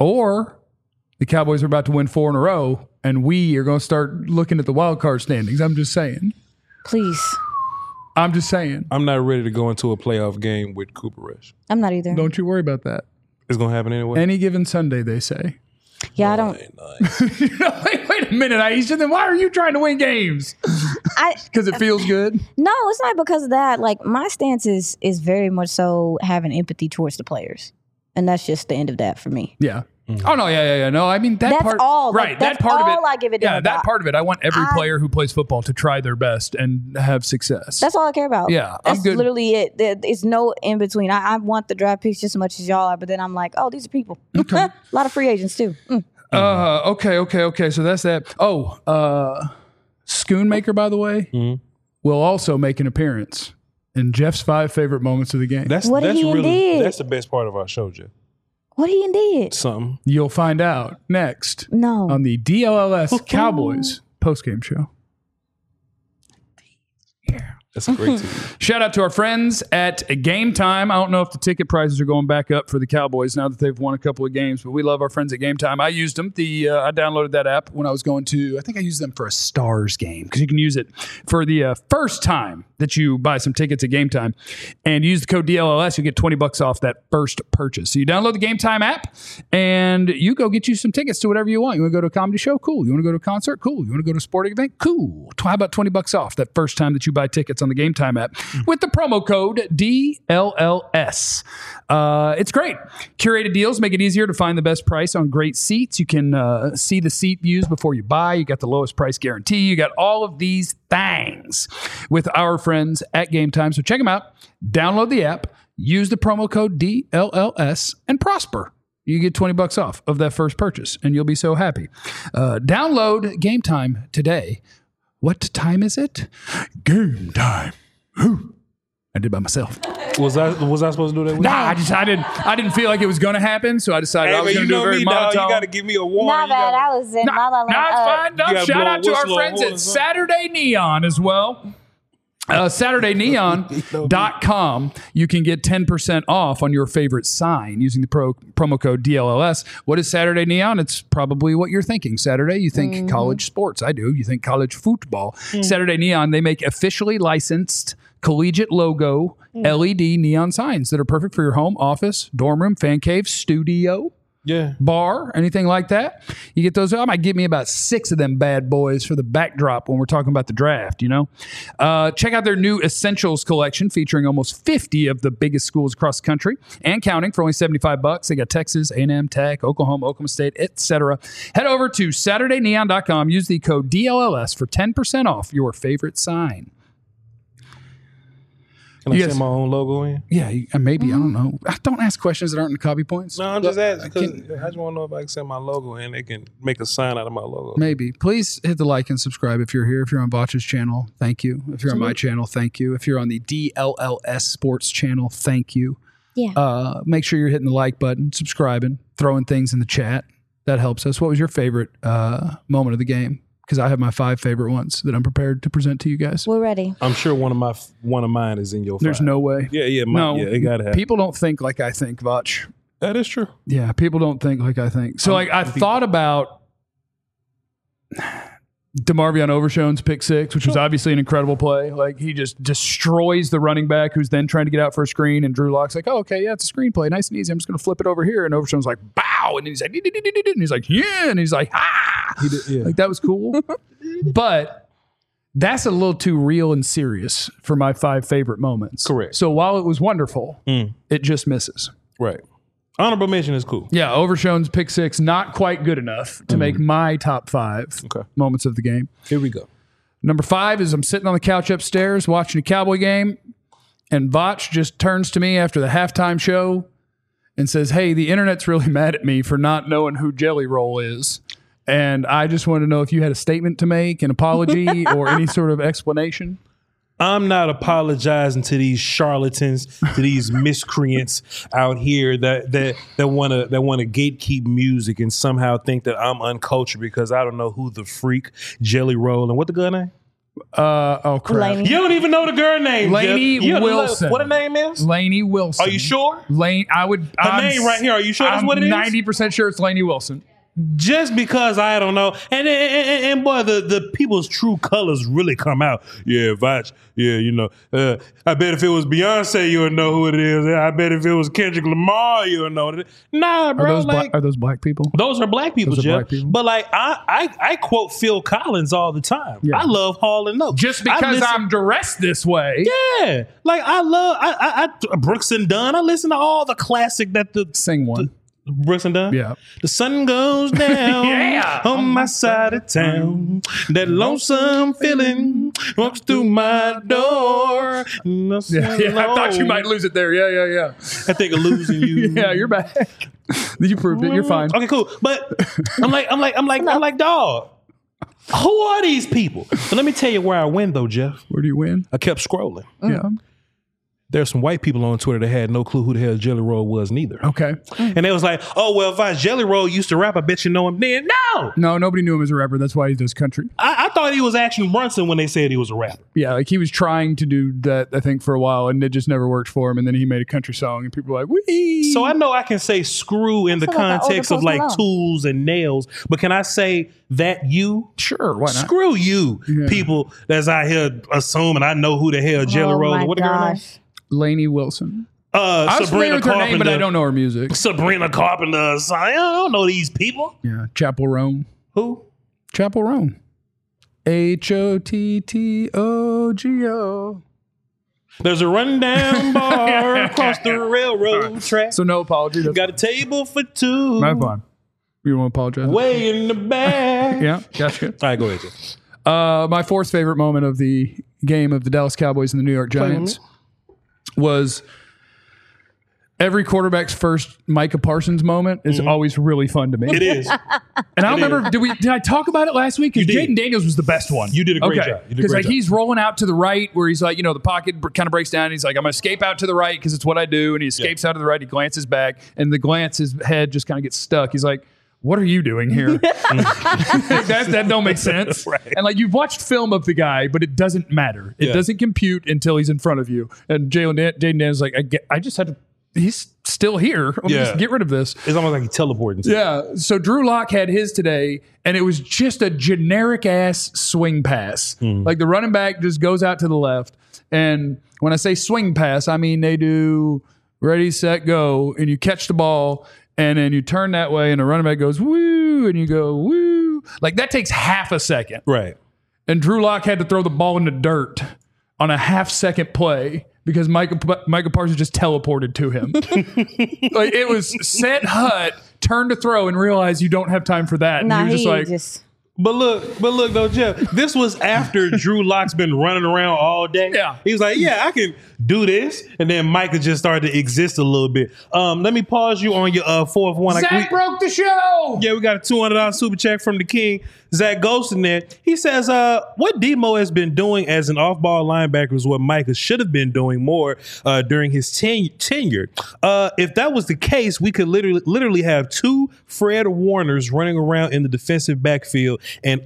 the Cowboys are about to win 4 in a row and we are going to start looking at the wild card standings. I'm just saying. Please. I'm just saying. I'm not ready to go into a playoff game with Cooper Rush. I'm not either. Don't you worry about that. It's going to happen anyway. Any given Sunday, they say. Yeah, I don't. Wait a minute, Aisha. Then why are you trying to win games? Because it feels good? No, it's not because of that. Like, my stance is very much so having empathy towards the players. And that's just the end of that for me. Yeah. Oh, no, yeah. No, I mean, That's part. all. Right, Like, that's that part all of it. I give a damn Yeah, that about. part of it. I want every player who plays football to try their best and have success. That's all I care about. Yeah, That's I'm good. literally it. It's no in between. I want the draft picks just as much as y'all are, but then I'm like, oh, these are people. A lot of free agents too. Okay. So that's that. Schoonmaker, by the way, will also make an appearance in Jeff's 5 favorite moments of the game. That's What he really did? that's the best part of our show, Jeff. What he did? Something. You'll find out next No. on the DLLS Cowboys postgame show. That's a great team. Shout out to our friends at Game Time. I don't know if the ticket prices are going back up for the Cowboys now that they've won a couple of games, but we love our friends at Game Time. I used them. I downloaded that app when I was going to, I think I used them for a Stars game because you can use it for the first time that you buy some tickets at Game Time and use the code DLLS, you'll get $20 off that first purchase. So you download the Game Time app and you go get you some tickets to whatever you want. You want to go to a comedy show? Cool. You want to go to a concert? Cool. You want to go to a sporting event? Cool. How about $20 off that first time that you buy tickets on the Game Time app with the promo code DLLS? It's great. Curated deals make it easier to find the best price on great seats. You can see the seat views before you buy. You got the lowest price guarantee. You got all of these things with our friends at Game Time. So check them out. Download the app. Use the promo code DLLS and prosper. You get $20 off of that first purchase, and you'll be so happy. Download Game Time today. What time is it? Game time. Whew. I did by myself. Was I supposed to do that? Nah, I didn't feel like it was going to happen, so I decided I was going to do a very monotone. You got to give me a warning. Not bad. I was in La La Land. No, it's fine. No, shout out to our friends at something. Saturday Neon as well. SaturdayNeon.com. You can get 10% off on your favorite sign using the promo code DLLS. What is Saturday Neon? It's probably what you're thinking. Saturday, you think college sports. I do. You think college football. Saturday Neon, they make officially licensed collegiate logo LED neon signs that are perfect for your home, office, dorm room, fan cave, studio. Yeah. Bar, anything like that. You get those. I might give me about 6 of them bad boys for the backdrop when we're talking about the draft, you know. Check out their new Essentials collection featuring almost 50 of the biggest schools across the country and counting for only $75. They got Texas, A&M, Tech, Oklahoma State, etc. Head over to SaturdayNeon.com. Use the code DLLS for 10% off your favorite sign. Can I send my own logo in? Yeah, maybe. I don't know. Don't ask questions that aren't in the copy points. No, I'm just asking because I just want to know if I can send my logo in. They can make a sign out of my logo. Maybe. Please hit the like and subscribe if you're here. If you're on Botch's channel, thank you. If you're on my channel, thank you. If you're on the DLLS Sports channel, thank you. Yeah. Make sure you're hitting the like button, subscribing, throwing things in the chat. That helps us. What was your favorite moment of the game? Because I have my 5 favorite ones that I'm prepared to present to you guys. We're ready. I'm sure one of mine is in your 5. There's no way. Yeah, it gotta happen. People don't think like I think, Vach. That is true. Yeah, people don't think like I think. So I thought about DeMarvion Overshown's pick 6, which was obviously an incredible play. Like he just destroys the running back who's then trying to get out for a screen, and Drew Lock's like, "Oh, okay, yeah, it's a screenplay, nice and easy. I'm just going to flip it over here." And Overshown's like, "Bow," and he's like, and he's like, "Yeah," and he's like, "Ah," like that was cool. But that's a little too real and serious for my 5 favorite moments. Correct. So while it was wonderful, it just misses. Right. Honorable mention is cool. Yeah, Overshown's pick 6, not quite good enough to make my top 5 moments of the game. Here we go. Number 5 is I'm sitting on the couch upstairs watching a Cowboy game, and Vach just turns to me after the halftime show and says, "Hey, the internet's really mad at me for not knowing who Jelly Roll is. And I just want to know if you had a statement to make, an apology, or any sort of explanation." I'm not apologizing to these charlatans, to these miscreants out here that want to gatekeep music and somehow think that I'm uncultured because I don't know who the freak Jelly Roll and what the girl name? Oh crap! Lainey. You don't even know the girl name, Lainey Jeff. Wilson. What her name is? Lainey Wilson. Are you sure? Her name right here. Are you sure that's what it is? 90% sure it's Lainey Wilson. Just because I don't know, and boy, the people's true colors really come out. Yeah, Vach. Yeah, you know. I bet if it was Beyonce, you would know who it is. I bet if it was Kendrick Lamar, you would know it. Nah, bro. Are those black people? Those are black people, Those are Jeff. black people. But like, I quote Phil Collins all the time. Yeah. I love Hall and Oates. Just because I'm dressed this way. Yeah, like I love I Brooks and Dunn. I listen to all the classic that the Sing one. Brooks and Dunn? Yeah. The sun goes down Yeah. on my side of town. That lonesome feeling walks through my door. Yeah, I thought you might lose it there. Yeah. I think of losing you. Yeah, you're back. You proved it. You're fine. Okay, cool. But I'm like, dog. Who are these people? But let me tell you where I win though, Jeff. Where do you win? I kept scrolling. Yeah. There's some white people on Twitter that had no clue who the hell Jelly Roll was neither. Okay. And they was like, oh, well, if Jelly Roll used to rap, I bet you know him then. No! No, nobody knew him as a rapper. That's why he does country. I thought he was Action Bronson when they said he was a rapper. Yeah, like he was trying to do that, I think, for a while, and it just never worked for him. And then he made a country song, and people were like, wee. So I know I can say screw in the feel like context the of older like Post tools and nails, but can I say that you? Sure, why not? Screw you, people that's out here assuming I know who the hell Jelly Roll is. What the girl name? Lainey Wilson. I was familiar Sabrina with her name, but I Carpenter. don't know her music. Sabrina Carpenter. I don't know these people. Yeah, Chapel Roan. Who? Chapel Roan. HOTTOGO. There's a rundown bar across the railroad track. So no apology. That's Got a table for two. my fine. You want to apologize? Way in the back. Yeah, gotcha. All right, go ahead, Jay. My fourth favorite moment of the game of the Dallas Cowboys and the New York Giants was every quarterback's first Micah Parsons moment is always really fun to me. It is. And I don't remember, did I talk about it last week? Because You did. Jaden Daniels was the best one. You did a great job. You did a Because great like job. he's rolling out to the right where he's like, the pocket kind of breaks down. And he's like, I'm going to escape out to the right because it's what I do. And he escapes out to the right. He glances back and the glance, his head just kind of gets stuck. He's like, what are you doing here? that don't make sense. Right. And like you've watched film of the guy, but it doesn't matter. It doesn't compute until he's in front of you. And Jaden Daniels like, I just had to, he's still here. Let me just get rid of this. It's almost like he's teleporting. Yeah. So Drew Lock had his today, and it was just a generic ass swing pass. Like the running back just goes out to the left. And when I say swing pass, I mean they do ready, set, go, and you catch the ball, and then you turn that way, and the running back goes woo, and you go woo. Like that takes half a second. Right. And Drew Lock had to throw the ball in the dirt on a half-second play because Micah Parsons just teleported to him. Like it was set hut, turn to throw, and realize you don't have time for that. And Nah, you're just he like, just But look though, Jeff, this was after Drew Lock's been running around all day. Yeah. He was like, yeah, I can do this. And then Micah just started to exist a little bit. Let me pause you on your fourth one. Zach broke the show. Yeah, we got a $200 super check from the king, Zach Ghost in there. He says, what Demo has been doing as an off-ball linebacker is what Micah should have been doing more during his tenure. If that was the case, we could literally have two Fred Warners running around in the defensive backfield and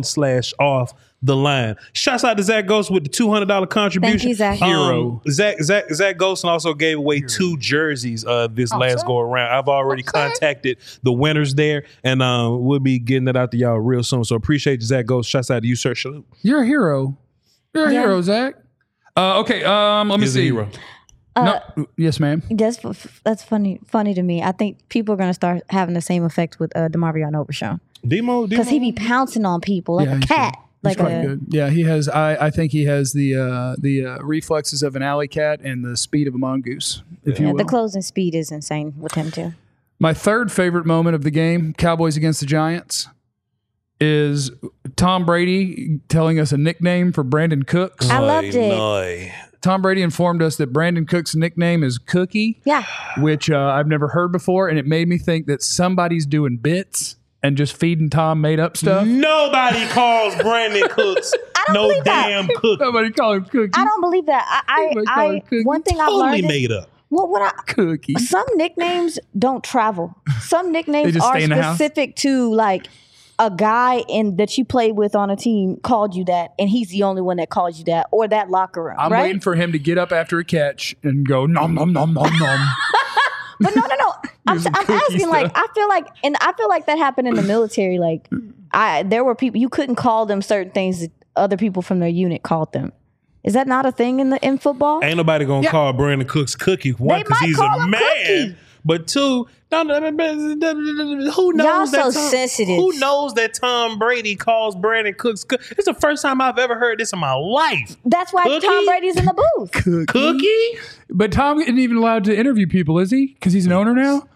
on/off the line. Shouts out to Zach Ghost with the $200 contribution. Thank you, Zach. Hero. Zach Ghost also gave away two jerseys this last go around. I've already contacted the winners there, and we'll be getting it out to y'all real soon. So appreciate you, Zach Ghost. Shouts out to you, Sir Shalute. You're a hero. You're a hero, Zach. Okay, let me He's a see. hero. No, yes, ma'am. that's funny to me. I think people are going to start having the same effect with Demarvion Overshown Demo, because he be pouncing on people like a he's cat. good. He's quite good. Yeah, he has. I think he has the reflexes of an alley cat and the speed of a mongoose. If you will. The closing speed is insane with him too. My third favorite moment of the game, Cowboys against the Giants, is Tom Brady telling us a nickname for Brandon Cooks. I loved it. Tom Brady informed us that Brandon Cook's nickname is Cookie, Yeah. which I've never heard before, and it made me think that somebody's doing bits and just feeding Tom made up stuff. Nobody calls Brandon Cooks no believe that. damn Cookie. Somebody call him Cookie. I don't believe that. Everybody call him Cookie. One thing I've Totally learned. made up. Well, Cookie. some nicknames don't travel. Some They nicknames just are stay in the house? specific to like a guy that you played with on a team called you that, and he's the only one that calls you that, or that locker room. I'm right? waiting for him to get up after a catch and go nom nom nom nom nom. But no. I'm some cookie asking. Like, stuff. I feel like that happened in the military. Like, there were people you couldn't call them certain things that other people from their unit called them. Is that not a thing in football? Ain't nobody gonna call Brandon Cooks Cookie. One, They because might he's call a him man. Cookie. But two, who knows Y'all that so Tom, sensitive. Who knows that Tom Brady calls Brandon Cooks Cookie? It's the first time I've ever heard this in my life. That's why Cookie? Tom Brady's in the booth. Cookie? But Tom isn't even allowed to interview people, is he? Because he's an owner now?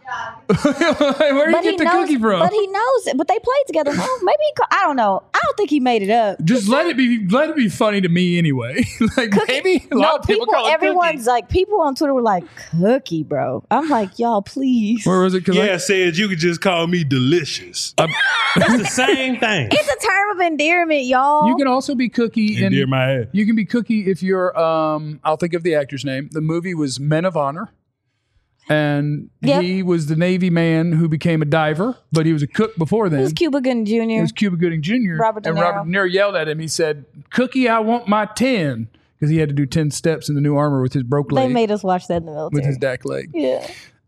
Where did you get the cookie from? But he knows it. But they played together. No, maybe I don't know. I don't think he made it up. Just let it be funny to me anyway. Like maybe a lot of people call it everyone's Cookie. like, people on Twitter were like, Cookie, bro. I'm like, y'all, please. We're Or was it because Yeah, said you could just call me delicious. It's the same thing. It's a term of endearment, y'all. you can also be Cookie Endear my head. you can be Cookie if you're I'll think of the actor's name. The movie was Men of Honor. And Yep. he was the Navy man who became a diver, but he was a cook before then. It was Cuba Gooding Jr. It was Cuba Gooding Jr. Robert De and Niro. Robert De Niro yelled at him. He said, "Cookie, I want my 10." Because he had to do 10 steps in the new armor with his broke They leg, made us watch that in the with military. his DAC leg. Yeah.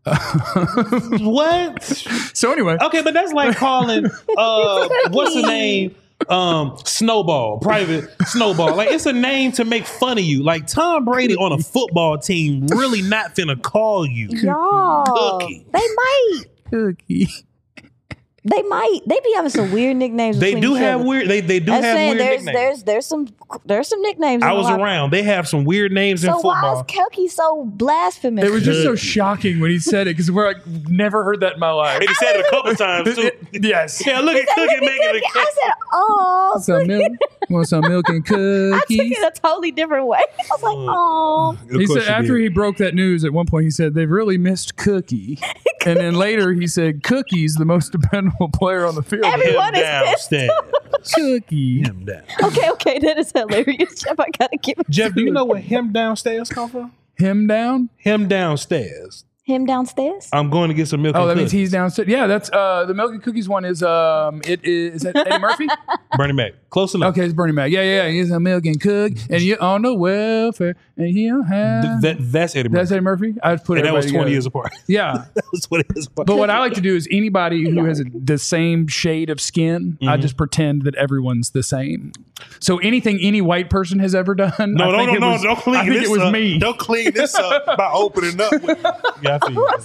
What? So anyway, Okay, but that's like calling what's the name? Snowball, Private Snowball. Like it's a name to make fun of you. Like Tom Brady on a football team really not finna call you. Y'all. Cookie. They might. Cookie. They might. They be having some weird nicknames. They between do each have other. weird. They do I'm have saying weird nicknames. there's some nicknames. I in was a lot. around. They have some weird names in So why football. is Cookie so blasphemous? It was just so shocking when he said it because we're like, never heard that in my life. And he said it a couple times too. Yes. Yeah, look at Look Cookie at making Cookie. a I cake. said, oh. Some milk. Want some milk and I took cookies? it a totally different way. I was like, oh. He said after he broke that news, at one point he said they've really missed Cookie, and then later he said Cookie's the most dependable player on the field. Everyone is pissed. downstairs. Cookie. Him down. Okay, that is hilarious, Jeff. I gotta give it Jeff, do you know where him downstairs come from? Him down? Him downstairs. him downstairs. I'm going to get some milk. Oh, and that means cookies. he's downstairs. Yeah, that's the milk and cookies one is is that Eddie Murphy? Bernie Mac. Close enough. Okay, it's Bernie Mac. Yeah. He's a milk and cook, and you're on the welfare, and you don't have. That's Eddie Murphy. That's Eddie Murphy. I put and that was everybody 20 years together. apart. Yeah, That was 20 years apart. but what I like to do is anybody who has the same shade of skin, I just pretend that everyone's the same. So anything any white person has ever done, No, I think it was, don't clean I think this it was up. me. Don't clean this up by opening up. Yeah, I feel you.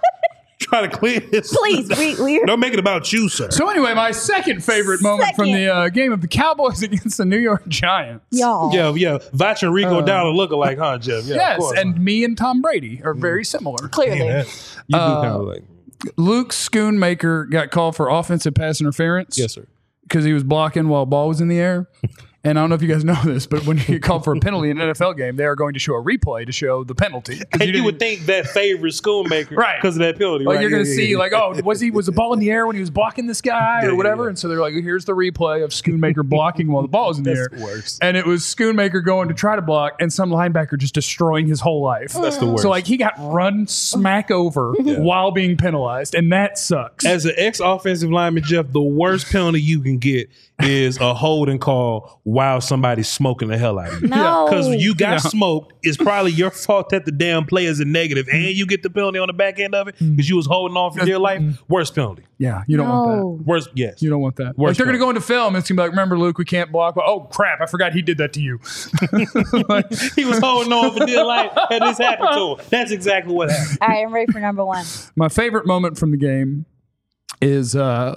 Try to clean this. Please, we're Don't make it about you, sir. So anyway, my second favorite moment from the game of the Cowboys against the New York Giants. y'all. Yeah. Vach and Rico Dowdle look alike, huh, Jeff? Yeah, of Yes, course. and me and Tom Brady are very similar. Clearly. Man, you do kind of like. Luke Schoonmaker got called for offensive pass interference. Yes, sir. Because he was blocking while ball was in the air. And I don't know if you guys know this, but when you get called for a penalty in an NFL game, they are going to show a replay to show the penalty. 'Cause And you didn't- would think that favors Schoonmaker Right. because of that penalty. like right? you're going to Yeah, see, yeah. like, oh, was the ball in the air when he was blocking this guy or whatever? yeah. And so they're like, here's the replay of Schoonmaker blocking while the ball was in the air. That's the worst. And it was Schoonmaker going to try to block, and some linebacker just destroying his whole life. That's the worst. So like he got run smack over while being penalized, and that sucks. As an ex-offensive lineman, Jeff, the worst penalty you can get is a holding call while somebody's smoking the hell out of you. No. Because you got Yeah. smoked, it's probably your fault that the damn play is a negative, and you get the penalty on the back end of it because you was holding on for dear life. Worst penalty. Yeah, you don't want that. No. Worst, yes. You don't want that. Like Worst they're going to part. go into film and it's going to be like, remember, Luke, we can't block. Oh, crap. I forgot he did that to you. Like, He was holding on for dear life, and this happened to him. That's exactly what happened. All right, I'm ready for number one. my favorite moment from the game is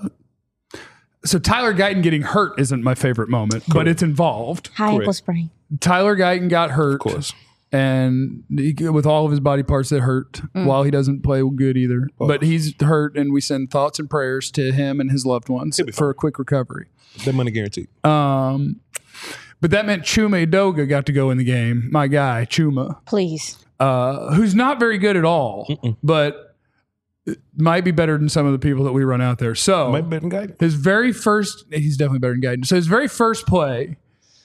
so Tyler Guyton getting hurt isn't my favorite moment, but it's involved. High ankle sprain. Tyler Guyton got hurt. Of course. And with all of his body parts that hurt, while he doesn't play good either. But he's hurt, and we send thoughts and prayers to him and his loved ones He'll be for a quick recovery. That money guaranteed. But that meant Chuma Edoga got to go in the game. My guy, Chuma, Please. who's not very good at all, but might be better than some of the people that we run out there. So Might be better than guidance. his very first, he's definitely better than Guyton. So his very first play,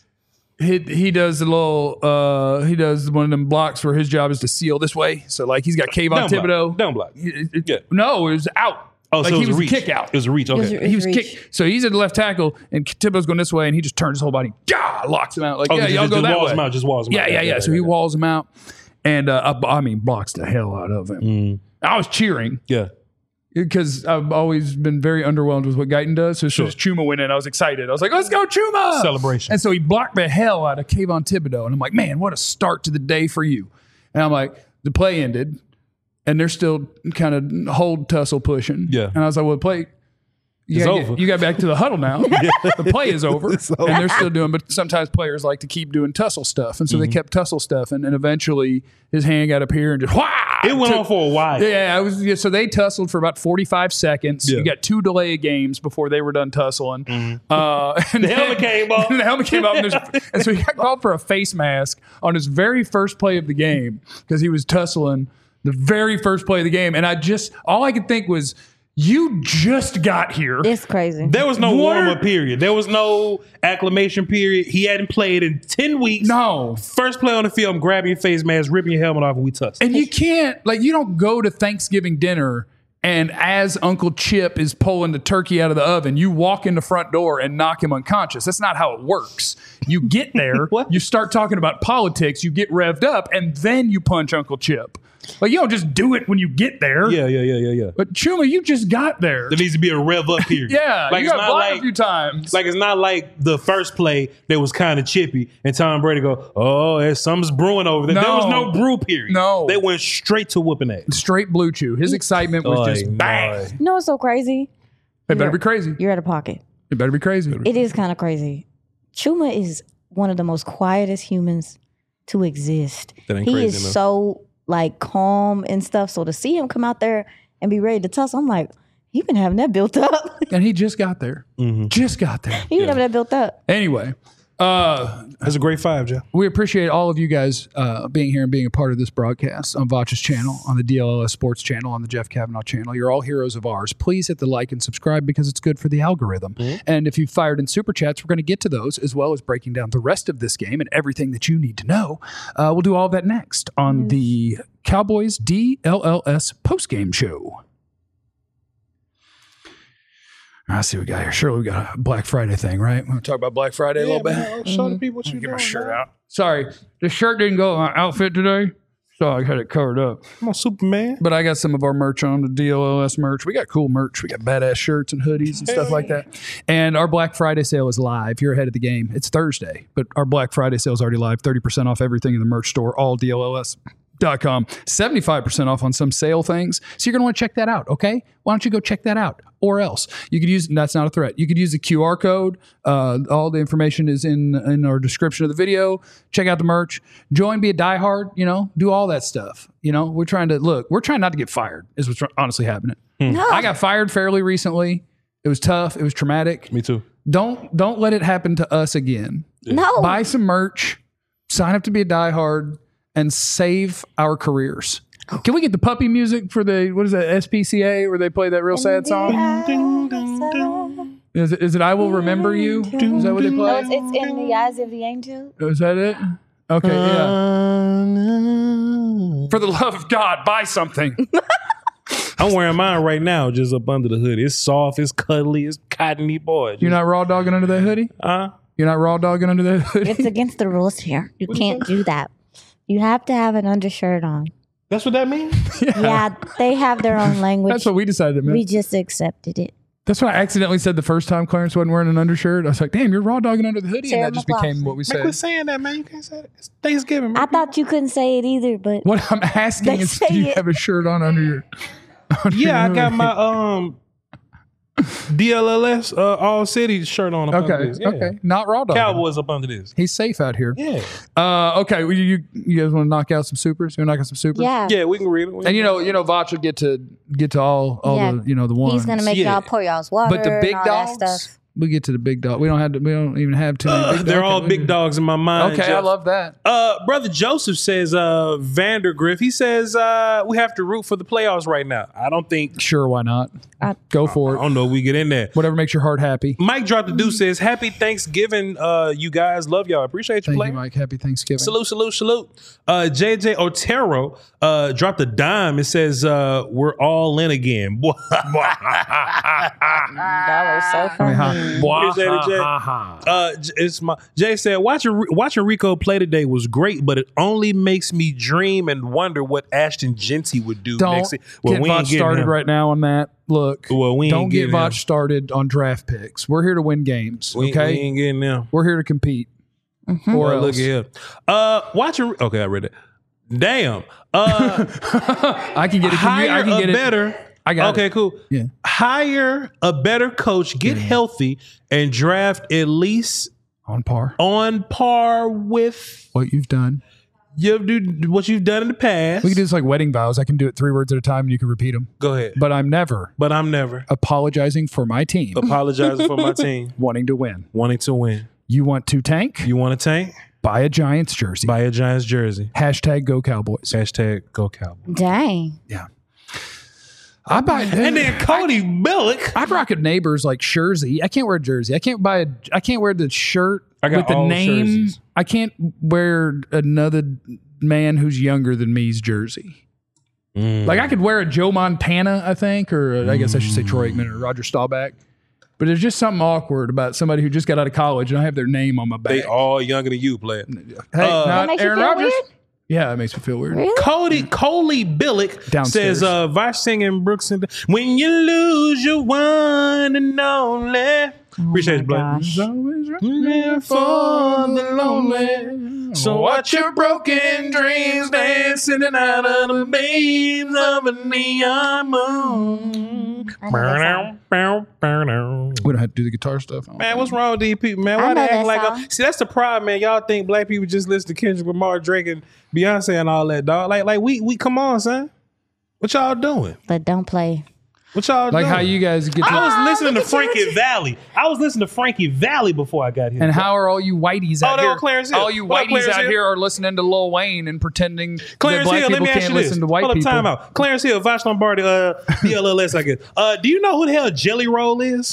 he does the little, he does one of them blocks where his job is to seal this way. So like he's got Kayvon Down block. Thibodeau. Down block. Yeah. Yeah. No, it was out. Oh, like so it he was a was reach. kick out. It was a reach. Okay. It He was reach. kicked. So he's at the left tackle, and Thibodeau's going this way, and he just turns his whole body, locks him out. Like, Oh, yeah, y'all go that walls way. him out. Just walls him out. Yeah. So he walls him out, and I mean, blocks the hell out of him. I was cheering Yeah. because I've always been very underwhelmed with what Guyton does. So as soon as Chuma went in, I was excited. I was like, let's go, Chuma! Celebration. And so he blocked the hell out of Kayvon Thibodeau. And I'm like, man, what a start to the day for you. And I'm like, the play ended, and they're still kind of hold tussle pushing. Yeah. And I was like, well, the play, It's over. you got back to the huddle now. The play is over. And they're still doing, but sometimes players like to keep doing tussle stuff. And so they kept tussle stuff. And eventually his hand got up here and just, It went on for a while. so they tussled for about 45 seconds. Yeah. You got 2 delay of games before they were done tussling. And The helmet came off. the helmet came off. And so he got called for a face mask on his very first play of the game because he was tussling The very first play of the game. And all I could think was, you just got here. It's crazy. There was no warm-up period. There was no acclimation period. He hadn't played in 10 weeks. No. First play on the field, I'm grabbing your face mask, ripping your helmet off, and we tussle. And you can't, you don't go to Thanksgiving dinner and as Uncle Chip is pulling the turkey out of the oven, you walk in the front door and knock him unconscious. That's not how it works. You get there, you start talking about politics, you get revved up, and then you punch Uncle Chip. You don't just do it when you get there. Yeah. But Chuma, you just got there. There needs to be a rev up period. Yeah, you got blocked a few times. It's not like the first play that was kind of chippy and Tom Brady go, oh, something's brewing over there. There was no brew period. No. They went straight to whooping ass. Straight blue chew. His excitement was just bang. You know what's so crazy? It better be crazy. You're out of pocket. It better be crazy. It is kind of crazy. Chuma is one of the most quietest humans to exist. He is so calm and stuff. So to see him come out there and be ready to tussle, I'm like, he been having that built up. And he just got there. Just got there. He been having that built up. Anyway. That's a great 5, Joe. We appreciate all of you guys being here and being a part of this broadcast on Voch's channel, on the DLLS Sports channel, on the Jeff Kavanaugh channel. You're all heroes of ours. Please hit the like and subscribe because it's good for the algorithm. And if you fired in super chats, we're going to get to those as well as breaking down the rest of this game and everything that you need to know. We'll do all of that next on the Cowboys DLLS postgame show. I see what we got here. Surely we got a Black Friday thing, right? We're going to talk about Black Friday a little bit. Man, show the people what you Get my doing, shirt man. out. Sorry, the shirt didn't go with my outfit today, so I had it covered up. I'm a Superman. But I got some of our merch on, the DLLS merch. We got cool merch. We got badass shirts and hoodies and stuff like that. And our Black Friday sale is live. You're ahead of the game. It's Thursday, but our Black Friday sale is already live. 30% off everything in the merch store, all DLLS.com. 75% off on some sale things. So you're going to want to check that out, okay? Why don't you go check that out? Or else you could use, that's not a threat. You could use the QR code. All the information is in our description of the video. Check out the merch. Join, be a diehard, do all that stuff. We're trying not to get fired is what's honestly happening. No. I got fired fairly recently. It was tough. It was traumatic. Me too. Don't let it happen to us again. No. Buy some merch, sign up to be a diehard, and save our careers. Can we get the puppy music for the, what is that, SPCA, where they play that real sad song? Is it I Will Remember You? Is that what they play? No, it's in the eyes of the angel. Is that it? Okay, yeah. For the love of God, buy something. I'm wearing mine right now, just up under the hood. It's soft, it's cuddly, it's cottony, boy. You're not raw dogging under that hoodie? You're not raw dogging under that hoodie? It's against the rules here. You can't do that. You have to have an undershirt on. That's what that means? Yeah, they have their own language. That's what we decided, man. We just accepted it. That's what I accidentally said the first time Clarence wasn't wearing an undershirt. I was like, damn, you're raw dogging under the hoodie. Sarah And that just McLachlan. became what we Man, quit said. saying that, man. You can't say that. It's Thanksgiving, man. I thought you couldn't say it either, but What I'm asking They is, say do you it. have a shirt on under your... Yeah, I got my DLLS All City shirt on. Up under this. Yeah. Okay. Not raw dog. Cowboys up under this. He's safe out here. Yeah. Okay. Well, you guys want to knock out some supers? You want to knock out some supers? yeah. Yeah, we can read it. And Voch will get to all Yeah. the ones. He's gonna make Yeah. y'all pour y'all's water. But the big and all that dogs, stuff. we get to the big dog. We don't even have too many. Big They're dogs. all big dogs in my mind. Okay, I Jeff. love that. Brother Joseph says Vandergriff. He says we have to root for the playoffs right now. I don't think. Sure, why not? Go for I it. don't know if we get in there. Whatever makes your heart happy. Mike dropped the deuce. Says happy Thanksgiving, you guys. Love y'all. Appreciate you Thank playing. you, Mike. Happy Thanksgiving. Salute. JJ Otero dropped a dime. It says we're all in again. Boy. That was so funny. Appreciate it, Jay. It's my Jay said watching Rico play today was great, but it only makes me dream and wonder what Ashton Genty would do Don't next. get Voch started him. right now on that. Look, Well, we ain't don't get getting Voch him. started on draft picks. We're here to win games. We Okay, ain't getting them. we're here to compete. Mm-hmm. Or Look else. at here. Watching. Okay, I read it. Damn. I can get it. Hire I can a get it. better. I got okay, it. cool. Yeah. Hire a better coach, get healthy, and draft at least On par. on par with What you've done. what you've done in the past. We can do this like wedding vows. I can do it 3 words at a time and you can repeat them. Go ahead. But I'm never But I'm never apologizing for my team apologizing for my team wanting to win. wanting to win. You want to tank? You want to tank? Buy a Giants jersey. Buy a Giants jersey. Hashtag Go Cowboys. Hashtag Go Cowboys. Dang. Yeah. I buy And then Cody Billick. I rock a neighbor's like jersey. I can't wear a jersey. I can't wear the shirt I got with the all name. jerseys. I can't wear another man who's younger than me's jersey. Like I could wear a Joe Montana, I think, or I guess I should say Troy Aikman or Roger Staubach. But there's just something awkward about somebody who just got out of college and I have their name on my back. They all younger than you, player. Hey, not makes you Aaron feel Rodgers. weird? Yeah, it makes me feel weird. Really? Coley Billick Downstairs. says, Vosh singing Brooks and when you lose your one and only. Appreciate you, Black. gosh. Always There for the lonely. So watch your broken dreams dancing out of the beams of a neon moon. I know that We don't have to do the guitar stuff. Man, what's wrong with these people, man? Why I they know act that like song. see, that's the problem, man. Y'all think black people just listen to Kendrick Lamar, Drake, and Beyonce and all that, dog. Like we come on, son. What y'all doing? But don't play. What y'all Like doing? how you guys get to. I was listening to Frankie Valli. I was listening to Frankie Valli before I got here. And how are all you whiteys out they're here? on Clarence Hill. All you What up, whiteys Clarence out Hill? here are listening to Lil Wayne and pretending Clarence that black Hill, let people me ask can't you this. listen to white Hold up, people. time out. Clarence Hill, Vash Lombardi, DLLS, I guess. Do you know who the hell Jelly Roll is?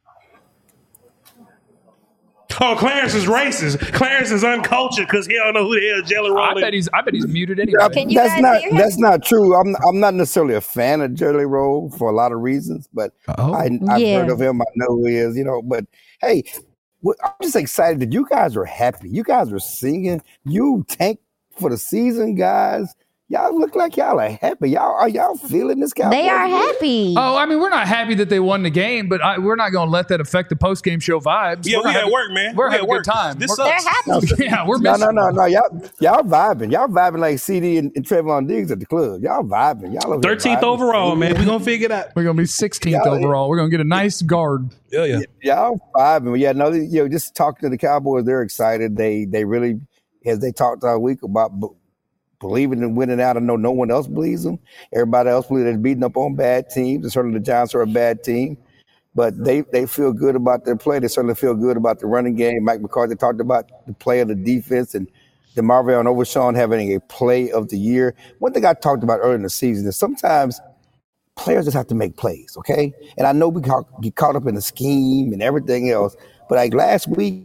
Oh, Clarence is racist. Clarence is uncultured because he don't know who the hell Jelly Roll is. I bet he's muted anyway. Can you guys hear him? That's not true. I'm not necessarily a fan of Jelly Roll for a lot of reasons, but I've Yeah. heard of him. I know who he is. But hey, I'm just excited that you guys are happy. You guys are singing. You tanked for the season, guys. Y'all look like y'all are happy. Are y'all feeling this guy? They are happy. Oh, I mean, we're not happy that they won the game, but we're not going to let that affect the post-game show vibes. Yeah, We're we having- at work, man. We're We having at a work. good time. This We're- sucks. They're happy. Yeah, we're No, missing. no. Y'all vibing. Y'all vibing like CD and Trayvon Diggs at the club. Y'all vibing. Y'all over here 13th vibing. overall, man. We gonna figure it out. We're going to be 16th Yeah. overall. We're going to get a nice guard. Yeah. Y'all vibing. Yeah, no, just talking to the Cowboys, they're excited. They really, as they talked all week about believing in winning out. I know no one else believes them. Everybody else believes they're beating up on bad teams. And certainly the Giants are a bad team. But they feel good about their play. They certainly feel good about the running game. Mike McCarthy talked about the play of the defense and DeMarvin Overshawn having a play of the year. One thing I talked about earlier in the season is sometimes players just have to make plays, okay? And I know we get caught up in the scheme and everything else, but like last week,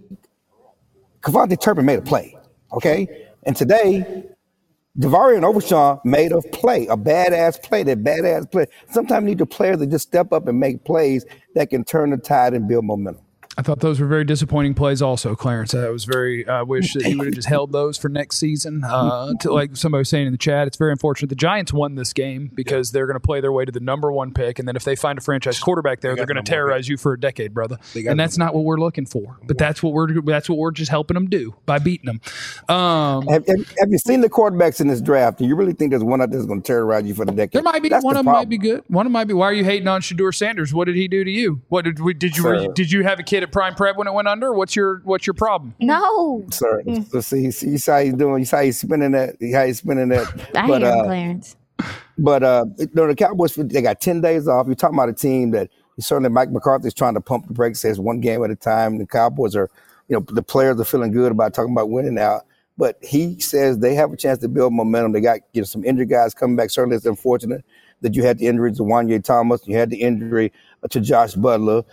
Kevontae Turpin made a play, okay? And today, DeVarian Overshawn made a play, a badass play, that badass play. Sometimes you need the players to just step up and make plays that can turn the tide and build momentum. I thought those were very disappointing plays also, Clarence. I was very wish that he would have just held those for next season. Like somebody was saying in the chat, it's very unfortunate. The Giants won this game because they're going to play their way to the number one pick. And then if they find a franchise quarterback there, they're going to terrorize you for a decade, brother. And that's not what we're looking for. But that's what we're just helping them do by beating them. Have you seen the quarterbacks in this draft? Do you really think there's one out there that's going to terrorize you for the decade? There might be That's one the of them might problem. be good. One of them might be. Why are you hating on Shador Sanders? What did he do to you? What did you have a kid at Prime Prep when it went under? What's your problem? No. Sir, so see, you see how he's doing. You see how he's spinning that. How he's spinning that. I hear him, Clarence. But the Cowboys, they got 10 days off. You're talking about a team that certainly Mike McCarthy's trying to pump the brakes, says one game at a time. The Cowboys are, the players are feeling good about talking about winning out. But he says they have a chance to build momentum. They got some injured guys coming back. Certainly it's unfortunate that you had the injury to Wanye Thomas. You had the injury to Josh Butler.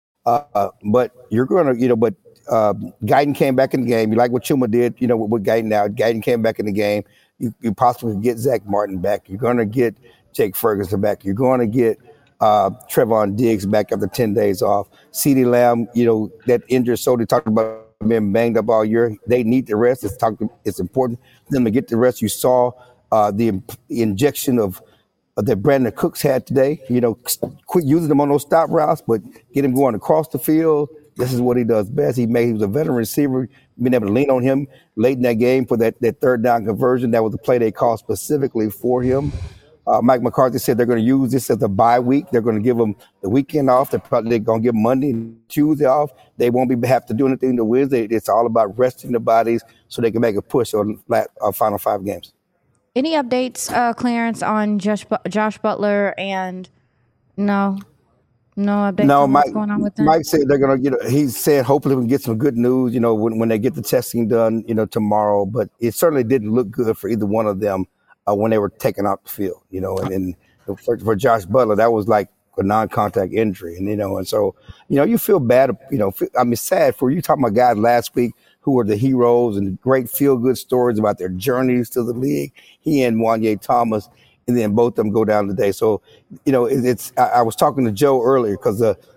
But you're going to, Guyton came back in the game. You like what Chuma did, with Guyton now. Guyton came back in the game. You possibly get Zach Martin back. You're going to get Jake Ferguson back. You're going to get Trevon Diggs back after 10 days off. CeeDee Lamb, that injured shoulder, talked about being banged up all year. They need the rest. It's important for them to get the rest. You saw the injection of that Brandon Cooks had today. Quit using them on those stop routes, but get him going across the field. This is what he does best. He was a veteran receiver, being able to lean on him late in that game for that third down conversion. That was the play they called specifically for him. Mike McCarthy said they're going to use this as a bye week. They're going to give them the weekend off. They're going to give Monday and Tuesday off. They won't have to do anything to Wednesday. It's all about resting the bodies so they can make a push on final 5 games. Any updates, Clarence, on Josh Butler and no? No updates No, on Mike. what's going on with them? Mike said they're gonna get. He said hopefully we can get some good news. When they get the testing done, tomorrow. But it certainly didn't look good for either one of them when they were taken off the field. And for Josh Butler, that was like a non-contact injury, and so you feel bad. Sad for you. Talking about guys last week who were the heroes and great feel-good stories about their journeys to the league. He and Wanye Thomas. And then both of them go down today. So, I was talking to Joe earlier because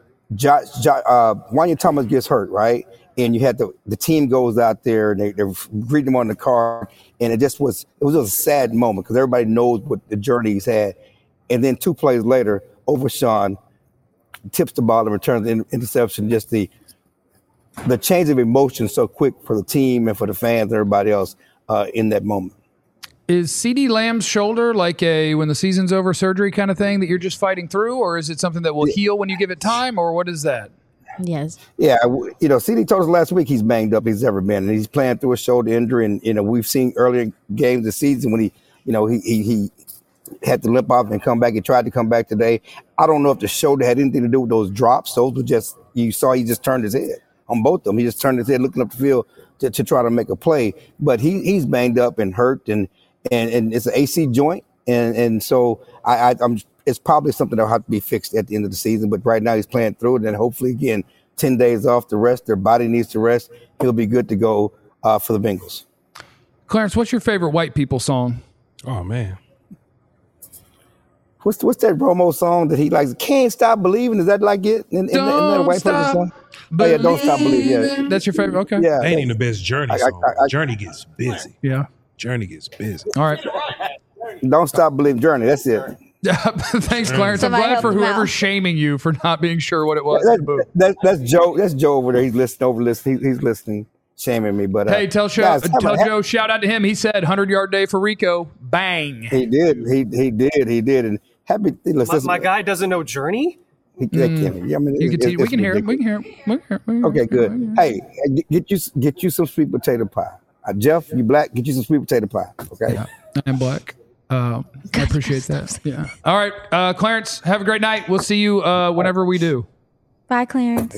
Wanya Thomas gets hurt, right? And you had the team goes out there and they're greeting him on the car. And it was a sad moment because everybody knows what the journey he's had. And then 2 plays later, Overshawn tips the ball and returns the interception. Just the change of emotion so quick for the team and for the fans and everybody else in that moment. Is CeeDee Lamb's shoulder like a when the season's over surgery kind of thing that you're just fighting through, or is it something that will heal when you give it time, or what is that? Yes. Yeah, CeeDee told us last week he's banged up. He's ever been, and he's playing through a shoulder injury. And we've seen earlier games this season when he had to limp off and come back. He tried to come back today. I don't know if the shoulder had anything to do with those drops. Those were just you saw he just turned his head on both of them. He just turned his head looking up the field to try to make a play. But he's banged up and hurt and it's an AC joint, and so I'm. It's probably something that'll have to be fixed at the end of the season. But right now he's playing through it, and hopefully again 10 days off to rest. Their body needs to rest. He'll be good to go for the Bengals. Clarence, what's your favorite white people song? Oh man, what's that Romo song that he likes? Can't Stop Believing. Is that like it? In that white person song? Oh yeah, Don't Stop Believing. Yeah, that's your favorite. Okay, yeah, that ain't even the best Journey song. Journey gets busy. Yeah. Journey gets busy. All right. Don't Stop Believing Journey. That's it. Thanks, Clarence. I'm glad for whoever's shaming you for not being sure what it was. That's Joe. That's Joe over there. He's listening. He's listening, shaming me. But hey, tell Joe. Shout out to him. He said 100-yard day for Rico. Bang. He did. And happy. Listen, my guy doesn't know Journey. We can hear him. Okay, good. Hey, get you some sweet potato pie. Jeff, you black? Get you some sweet potato pie. Okay. Yeah, I'm black. I appreciate that. Yeah. All right, Clarence. Have a great night. We'll see you whenever we do. Bye, Clarence.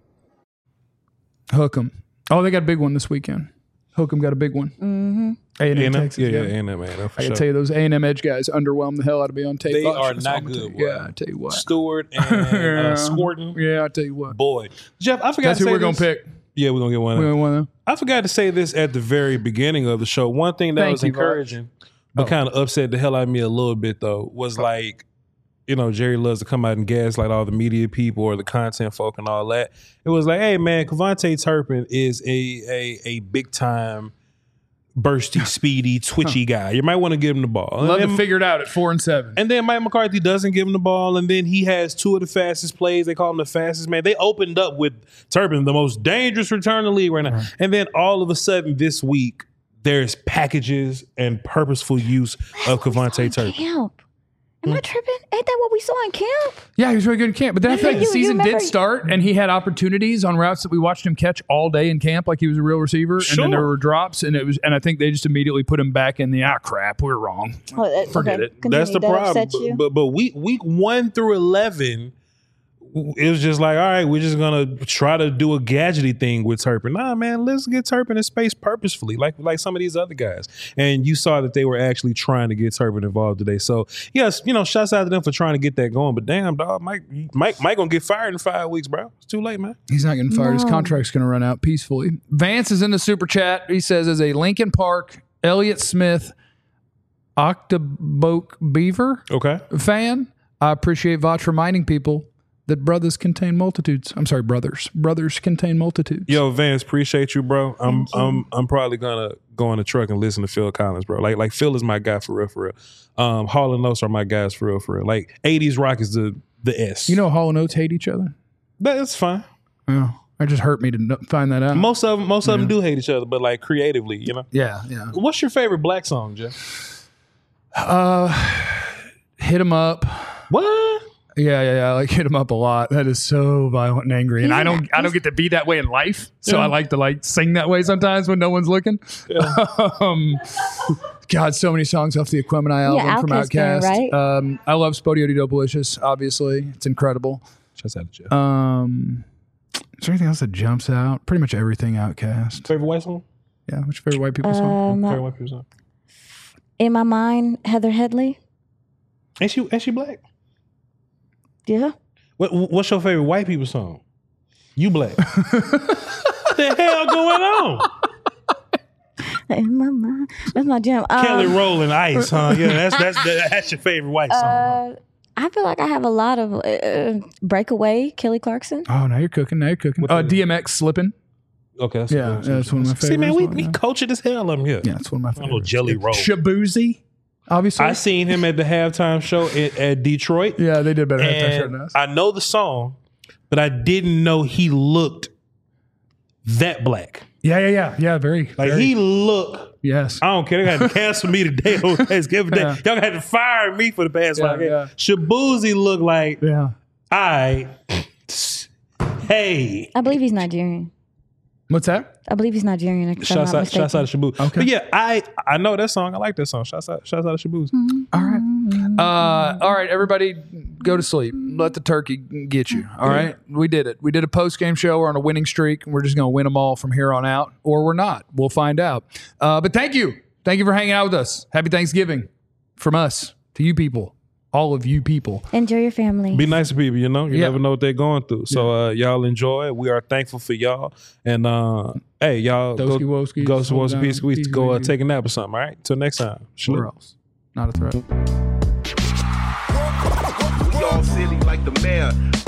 Hook 'em. Oh, they got a big one this weekend. Hook 'em got a big one. Mm-hmm. A&M, Texas. Yeah, A&M, man. I can tell you those A&M edge guys underwhelmed the hell out of me on tape. They are not good. Yeah, I tell you what. Stewart and Scorton. Yeah, I tell you what. Boy, Jeff, I forgot. That's to who say we're gonna pick. Yeah, we're gonna get one. We're gonna get one. I forgot to say this at the very beginning of the show. One thing that was encouraging, but kind of upset the hell out of me a little bit though, was like, Jerry loves to come out and gaslight all the media people or the content folk and all that. It was like, hey man, KaVontae Turpin is a big time, bursty, speedy, twitchy guy. You might want to give him the ball. Love to figure it out at 4-7. And then Mike McCarthy doesn't give him the ball, and then he has 2 of the fastest plays. They call him the fastest man. They opened up with Turpin, the most dangerous return in the league right now. Right. And then all of a sudden this week, there's packages and purposeful use of KaVontae Turpin. Camp. Am I tripping? Ain't that what we saw in camp? Yeah, he was really good in camp. But then I feel like the season did start, and he had opportunities on routes that we watched him catch all day in camp, like he was a real receiver. Sure. And then there were drops, and I think they just immediately put him back in the crap, we're wrong. Forget it. Continue. That's the problem. But week 1 through 11. It was just like, all right, we're just gonna try to do a gadgety thing with Turpin. Nah, man, let's get Turpin in space purposefully, like some of these other guys. And you saw that they were actually trying to get Turpin involved today. So yes, shouts out to them for trying to get that going. But damn, dog, Mike gonna get fired in 5 weeks, bro. It's too late, man. He's not getting fired. No. His contract's gonna run out peacefully. Vance is in the super chat. He says, as a Lincoln Park, Elliott Smith, Octoboke Beaver fan, I appreciate Vach reminding people that brothers contain multitudes. I'm sorry, brothers. Brothers contain multitudes. Yo, Vance, appreciate you, bro. I'm probably gonna go on the truck and listen to Phil Collins, bro. Like Phil is my guy for real. Hall and Oates are my guys for real. Like 80s rock is the S. Hall and Oates hate each other? That's fine. Oh, it just hurt me to find that out. Most of them do hate each other, but like creatively, Yeah. What's your favorite black song, Jeff? Hit 'Em Up. What? Yeah. I like Hit 'Em Up a lot. That is so violent and angry. And I don't get to be that way in life. So I like to sing that way sometimes when no one's looking. Yeah. God, so many songs off the Aquemini album from Outkast. Right? I love Spodio Di Dopolicious, obviously. It's incredible. Shouts out to Jeff. Is there anything else that jumps out? Pretty much everything Outkast. Favorite white song? Yeah, what's your favorite white people song? Favorite white people song? In my mind, Heather Headley. Ain't she black? Yeah. What's your favorite white people song? You black. What the hell going on? In my mind. That's my jam. Kelly Rowland Ice, huh? Yeah, that's your favorite white song. I feel like I have a lot of Breakaway, Kelly Clarkson. Oh, now you're cooking. DMX Slipping. Okay, that's that's one of my favorites. See, man, we cultured as hell on here. Yeah, it's one of my favorites. A little Jelly Roll. Shabuzi, obviously. I seen him at the halftime show at Detroit. Yeah, they did better halftime show than us. I know the song, but I didn't know he looked that black. Yeah. Very. He looked. Yes. I don't care. They got to cancel me today on Thanksgiving Day. Y'all had to fire me for the past 5 days. Yeah. Shabuzi looked like, hey. I believe he's Nigerian. What's that? I believe he's Nigerian. Shouts out to Shabu. Okay. But yeah, I know that song. I like that song. Shouts out to Shabu. Mm-hmm. All right, everybody, go to sleep. Let the turkey get you. All right, we did it. We did a post game show. We're on a winning streak. We're just going to win them all from here on out, or we're not. We'll find out. But thank you for hanging out with us. Happy Thanksgiving from us to you people. All of you people. Enjoy your family. Be nice to people, you know? You never know what they're going through. So y'all enjoy. We are thankful for y'all. And hey, y'all go peace. Go take a nap or something, all right? Till next time. Where else? Not a threat. We all silly like the mayor.